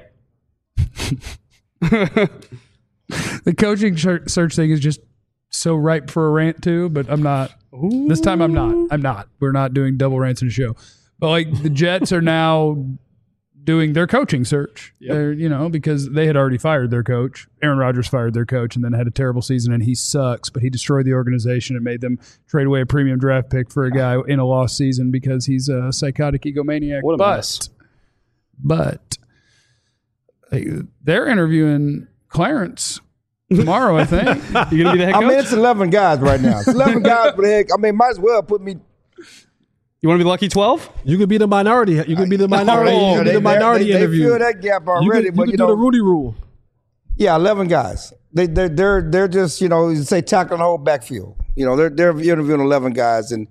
The coaching search thing is just so ripe for a rant too, but I'm not. Ooh. This time I'm not. We're not doing double rants in a show. But like the Jets are now doing their coaching search. Yep. They're, because they had already fired their coach. Aaron Rodgers fired their coach and then had a terrible season, and he sucks, but he destroyed the organization and made them trade away a premium draft pick for a guy in a lost season because he's a psychotic egomaniac. What a mess. But they're interviewing Clarence tomorrow, I think. You're going to be the head coach? I mean, it's 11 guys right now. It's 11 guys for the head. I mean, might as well put me. You want to be lucky 12? You could be the minority. You could be the minority. You could be the minority interview. They fill that gap already. You could do the Rudy rule. Yeah, 11 guys. They're just say tackling the whole backfield. They're interviewing 11 guys, and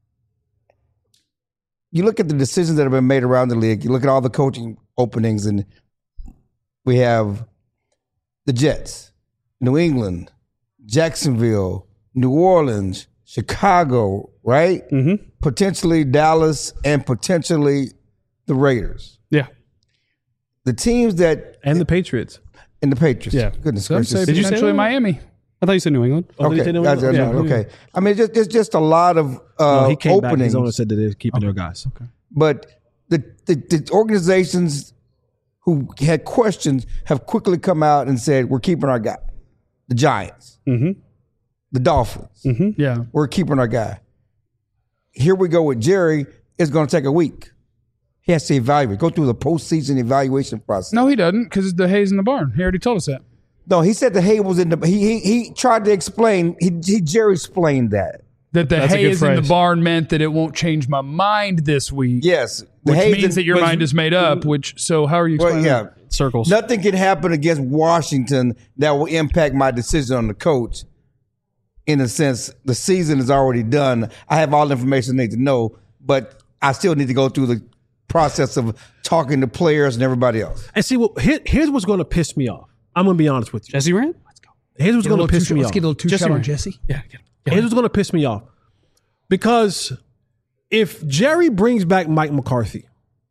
you look at the decisions that have been made around the league. You look at all the coaching openings, and we have the Jets, New England, Jacksonville, New Orleans, Chicago, right? Mm-hmm. Potentially Dallas and potentially the Raiders. Yeah. The teams that And the Patriots. and the Patriots. Yeah. Goodness Some say gracious. Did you say potentially that? Miami. I thought you said New England. Oh, did he Okay. say New That's- England? Yeah. okay. I mean, it's just a lot of No, he came back. openings. His owner said that they're keeping their guys. But the organizations who had questions have quickly come out and said, we're keeping our guy. The Giants, Mm-hmm. the Dolphins, Yeah. we're keeping our guy. Here we go with Jerry. It's going to take a week. He has to evaluate, go through the postseason evaluation process. No, he doesn't because the hay's in the barn. He already told us that. No, he said the hay was in the. He tried to explain. Jerry explained that. That the That's a hay good is in the phrase. barn meant that it won't change my mind this week. Yes, the Which hay's means in- that your but- mind is made up. So how are you Well, explaining yeah. that? Circles. Nothing can happen against Washington that will impact my decision on the coach. In a sense, the season is already done. I have all the information I need to know, but I still need to go through the process of talking to players and everybody else. And see, here's what's going to piss me off. I'm going to be honest with you. Jesse Rand? Here's what's going to piss me Let's off. get a little two Jesse shot on Rand. Jesse. Yeah. Here's what's going to piss me off. Because if Jerry brings back Mike McCarthy,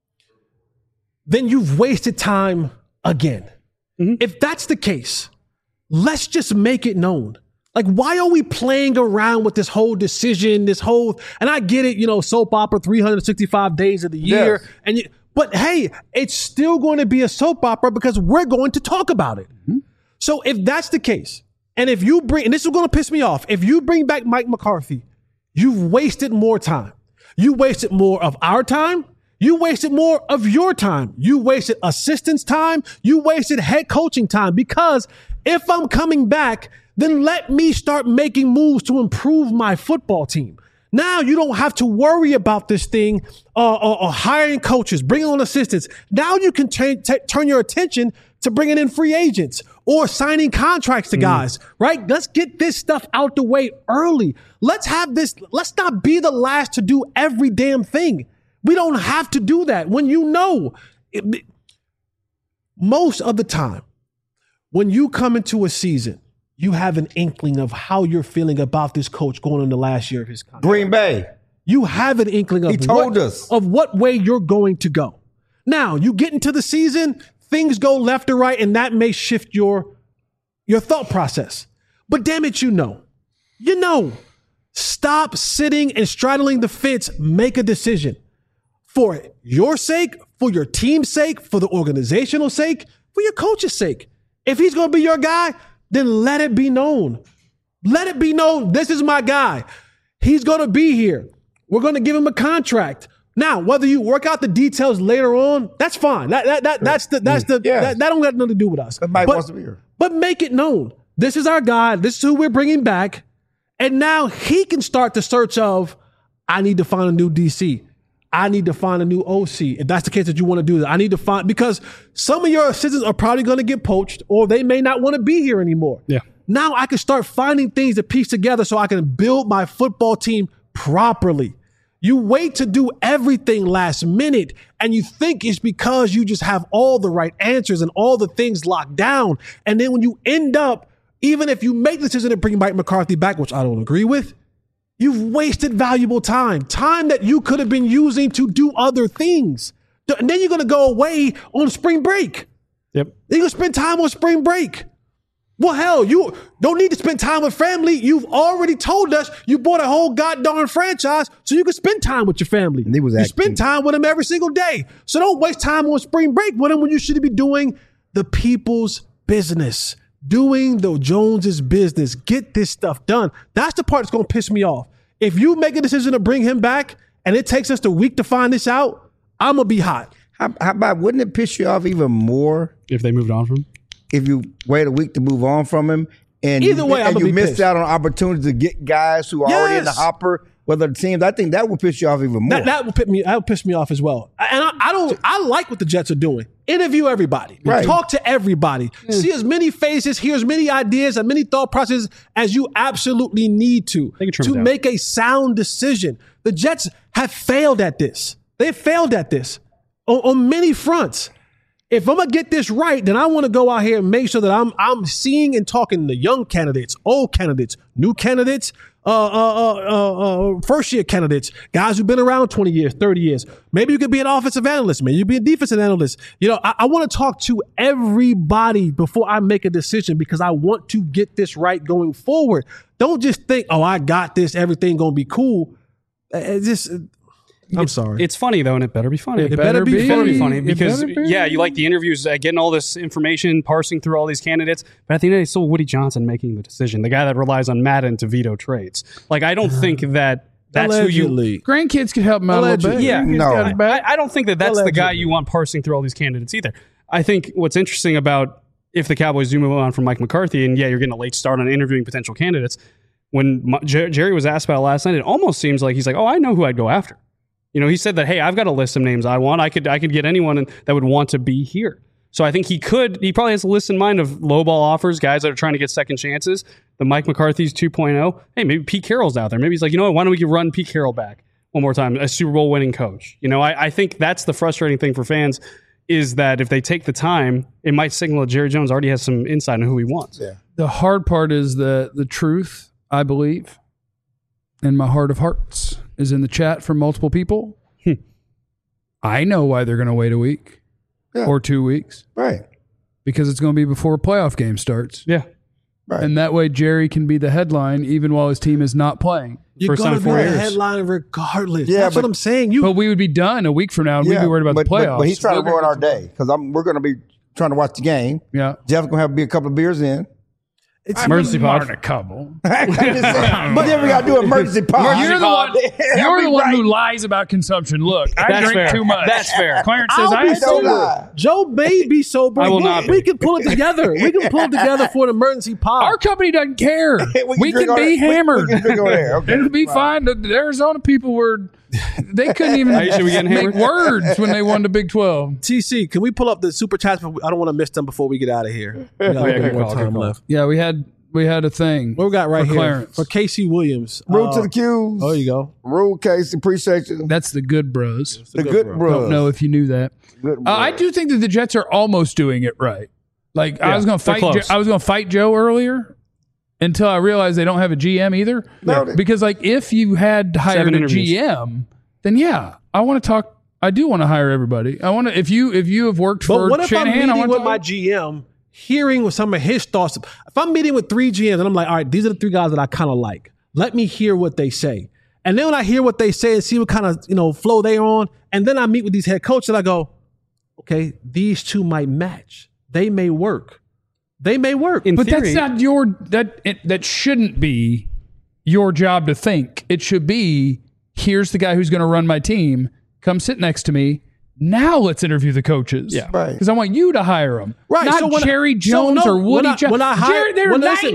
then you've wasted time again. If that's the case, let's just make it known. Like, why are we playing around with this whole decision, and I get it, soap opera 365 days of the year. Yes. But hey, it's still going to be a soap opera because we're going to talk about it. So if that's the case, and if you bring, and this is going to piss me off, if you bring back Mike McCarthy, you've wasted more time. You wasted more of our time. You wasted more of your time. You wasted assistants' time. You wasted head coaching time. Because if I'm coming back, then let me start making moves to improve my football team. Now you don't have to worry about this thing or hiring coaches, bringing on assistants. Now you can turn your attention to bringing in free agents or signing contracts to guys, right? Let's get this stuff out the way early. Let's not be the last to do every damn thing. We don't have to do that. When most of the time, when you come into a season, you have an inkling of how you're feeling about this coach going in the last year of his contract. Green Bay. You have an inkling of He told us. of what way you're going to go. Now, you get into the season, things go left or right, and that may shift your thought process. But damn it, you know. Stop sitting and straddling the fence. Make a decision. For your sake, for your team's sake, for the organizational sake, for your coach's sake. If he's going to be your guy, then let it be known. Let it be known, this is my guy. He's going to be here. We're going to give him a contract. Now, whether you work out the details later on, that's fine. That don't got nothing to do with us. But Mike wants to be here. But make it known. This is our guy. This is who we're bringing back. And now he can start the search of, I need to find a new DC. I need to find a new OC. If that's the case that you want to do that, I need to find, because some of your assistants are probably going to get poached or they may not want to be here anymore. Yeah. Now I can start finding things to piece together so I can build my football team properly. You wait to do everything last minute and you think it's because you just have all the right answers and all the things locked down. And then when you end up, even if you make the decision to bring Mike McCarthy back, which I don't agree with, you've wasted valuable time that you could have been using to do other things. And then you're going to go away on spring break. Yep. You're going to spend time on spring break. Well, hell, you don't need to spend time with family. You've already told us you bought a whole goddamn franchise so you can spend time with your family. And he was you acting. spend time with them every single day. So don't waste time on spring break with them when you should be doing the people's business. Doing the Joneses' business. Get this stuff done. That's the part that's going to piss me off. If you make a decision to bring him back and it takes us the week to find this out, I'm going to be hot. How about, wouldn't it piss you off even more If they moved on from him. if you wait a week to move on from him? And Either way, I'm and gonna you be missed pissed. out on opportunities to get guys who are already in the Yes. hopper, whether the teams. I think that would piss you off even more. That will piss me off as well. And I like what the Jets are doing. Interview everybody. Right. Talk to everybody. See as many faces, hear as many ideas, and many thought processes as you absolutely need to They can trim it down. make a sound decision. The Jets have failed at this. They've failed at this on many fronts. If I'm gonna get this right, then I want to go out here and make sure that I'm seeing and talking to young candidates, old candidates, new candidates, first year candidates, guys who've been around 20 years, 30 years. Maybe you could be an offensive analyst, maybe you could be a defensive analyst. You know, I want to talk to everybody before I make a decision because I want to get this right going forward. Don't just think, oh, I got this, everything gonna be cool. I'm sorry. It's funny though, and it better be funny. It better be funny because you like the interviews, getting all this information, parsing through all these candidates, but at the end of the day, it's still Woody Johnson making the decision, the guy that relies on Madden to veto trades. Like, I don't think that's Allegedly. who you. Grandkids could help him out a little bit. Yeah, No. I don't think that's the guy you want parsing through all these candidates either. I think what's interesting about if the Cowboys do move on from Mike McCarthy, and you're getting a late start on interviewing potential candidates. When Jerry was asked about it last night, it almost seems like he's like, "Oh, I know who I'd go after." You know, he said that, hey, I've got a list of names I want. I could get anyone that would want to be here. So I think he probably has a list in mind of lowball offers, guys that are trying to get second chances. The Mike McCarthy's 2.0. Hey, maybe Pete Carroll's out there. Maybe he's like, you know what, why don't we run Pete Carroll back one more time, a Super Bowl winning coach? You know, I think that's the frustrating thing for fans is that if they take the time, it might signal that Jerry Jones already has some insight on who he wants. Yeah. The hard part is the truth, I believe, in my heart of hearts, is in the chat from multiple people. I know why they're going to wait a week or 2 weeks. Right. Because it's going to be before a playoff game starts. Yeah. Right. And that way Jerry can be the headline even while his team is not playing. You're First going time to in be 4 a years. headline regardless. Yeah, That's what but- I'm saying. But we would be done a week from now and we'd be worried about the playoffs. But he's trying to ruin our day because we're going to be trying to watch the game. Yeah. Jeff's going to have to be a couple of beers in. It's Emergency pod. a couple. I'm just saying. But then we got to do emergency pod. You're the one who lies about consumption. Look, I That's drink fair. too much. That's fair. Clarence says I'll I be have don't sober. lie. Joe may be sober. I will not We be. can pull it together. We can pull it together for an emergency pod. Our company doesn't care. We drink can on be it. hammered. We can drink over there. Okay. It'll be fine. The Arizona people they couldn't even Aisha, we getting make hammered? words when they won the Big 12. TC, can we pull up the super chats? But I don't want to miss them before we get out of here. We got a little good more call, time good call. left. Yeah, we had a thing. What we got right for here Clarence. for Casey Williams? Root to the Q's. Oh, you go. Rule Casey. Appreciate you. That's the good bros. The good bros. Don't know if you knew that. Good I bros. do think that the Jets are almost doing it right. Like I Yeah, was going to they're fight. close. I was going to fight Joe earlier until I realized they don't have a GM either. No, Because like if you had hired 7 a interviews. GM, then yeah, I want to talk. I do want to hire everybody. I want to. If you have worked But for what if I'm Shanahan, I meeting want with to my GM, hearing what some of his thoughts? If I'm meeting with 3 GMs and I'm like, all right, these are the 3 guys that I kind of like. Let me hear what they say. And then when I hear what they say and see what kind of flow they're on, and then I meet with these head coaches and I go, okay, these 2 might match. They may work. They may work. In But theory, that's not that shouldn't be your job to think. It should be, here's the guy who's going to run my team. Come sit next to me. Now let's interview the coaches. Yeah. Right. Because I want you to hire them. Right, Not so when Jerry Jones or Woody Jones. They're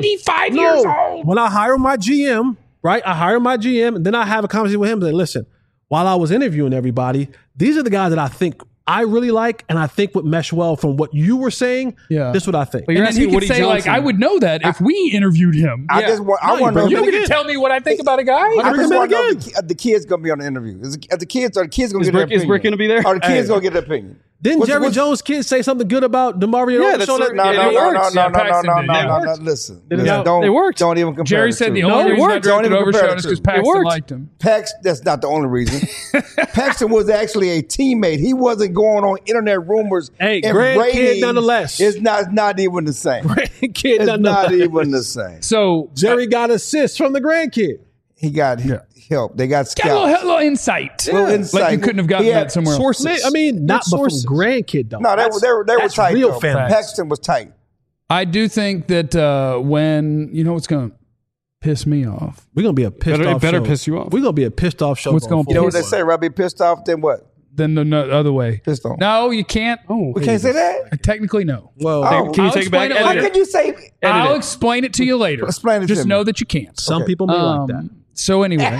95 years old. When I hire my GM, right? I hire my GM and then I have a conversation with him and say, listen, while I was interviewing everybody, these are the guys that I think I really like and I think would mesh well from what you were saying. Yeah. This is what I think. But you're And then he asking could Woody say, Johnson. like, I would know that if we interviewed him. I just want. I No, want to know. You don't bring get him to in. tell me what I think about a guy. I bring just him want to know in if the kid's going to be on the interview. Are the kids going to get Is their Brick- opinion? is Brick gonna be there? Are the kids going to get their opinion? Didn't Jerry What's- Jones' kids say something good about DeMario? Yeah, on the that's show right. No, Yeah, no, it no, no, works. no, Yeah, no, Paxton no, did. no, It no, works. no. Listen, It don't worked. Don't even compare. Jerry the said two. the only it reason I worked. drafted Don't even over compare Sean the is because two. Paxton worked. liked him. That's not the only reason. Paxton was actually a teammate. He wasn't going on internet rumors. Hey, and grandkid ratings. nonetheless. It's not even the same. Kid, It's not nonetheless. even the same. So Jerry got assists from the grandkid. He got help. They got got a scouts. little insight. Little insight. Like you couldn't have gotten He had that somewhere else. sources. I mean, not from sources. grandkid though. No, they were That's tight. real though. family. Paxton was tight. I do think that when, you know what's going to piss me off? We're gonna be a pissed It off. better show. piss you off. We're gonna be a pissed off show. What's gonna going You know what forward. they say? Rather be pissed off than what? Then the other way. Pissed off. No, you can't. Oh, We can't say that. Technically, no. Well, Oh. Can you I'll take it back? explain it How later. could you say? I'll explain it to you later. Explain it to Just me. know that you can't. some people may like that. So anyway,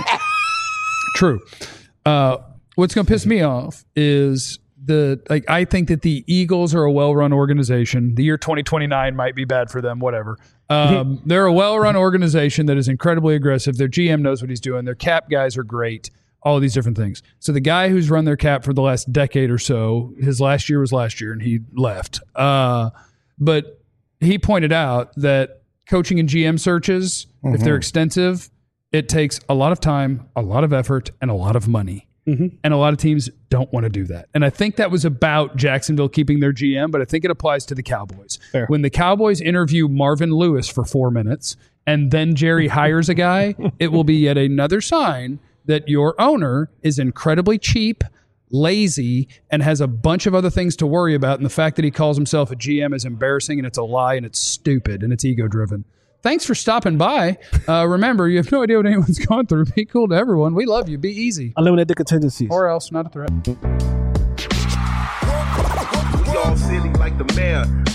true. What's going to piss me off is I think that the Eagles are a well-run organization. The year 2029 might be bad for them, whatever. They're a well-run organization that is incredibly aggressive. Their GM knows what he's doing. Their cap guys are great. all these different things. So the guy who's run their cap for the last decade or so, his last year was last year and he left. But he pointed out that coaching and GM searches, if they're extensive, it takes a lot of time, a lot of effort, and a lot of money. And a lot of teams don't want to do that. And I think that was about Jacksonville keeping their GM, but I think it applies to the Cowboys. Fair. When the Cowboys interview Marvin Lewis for 4 minutes and then Jerry hires a guy, it will be yet another sign that your owner is incredibly cheap, lazy, and has a bunch of other things to worry about. And the fact that he calls himself a GM is embarrassing, and it's a lie, and it's stupid, and it's ego-driven. Thanks for stopping by. Remember, you have no idea what anyone's going through. Be cool to everyone. We love you. Be easy. Eliminate the contingencies. Or else, not a threat. We all silly like the mayor.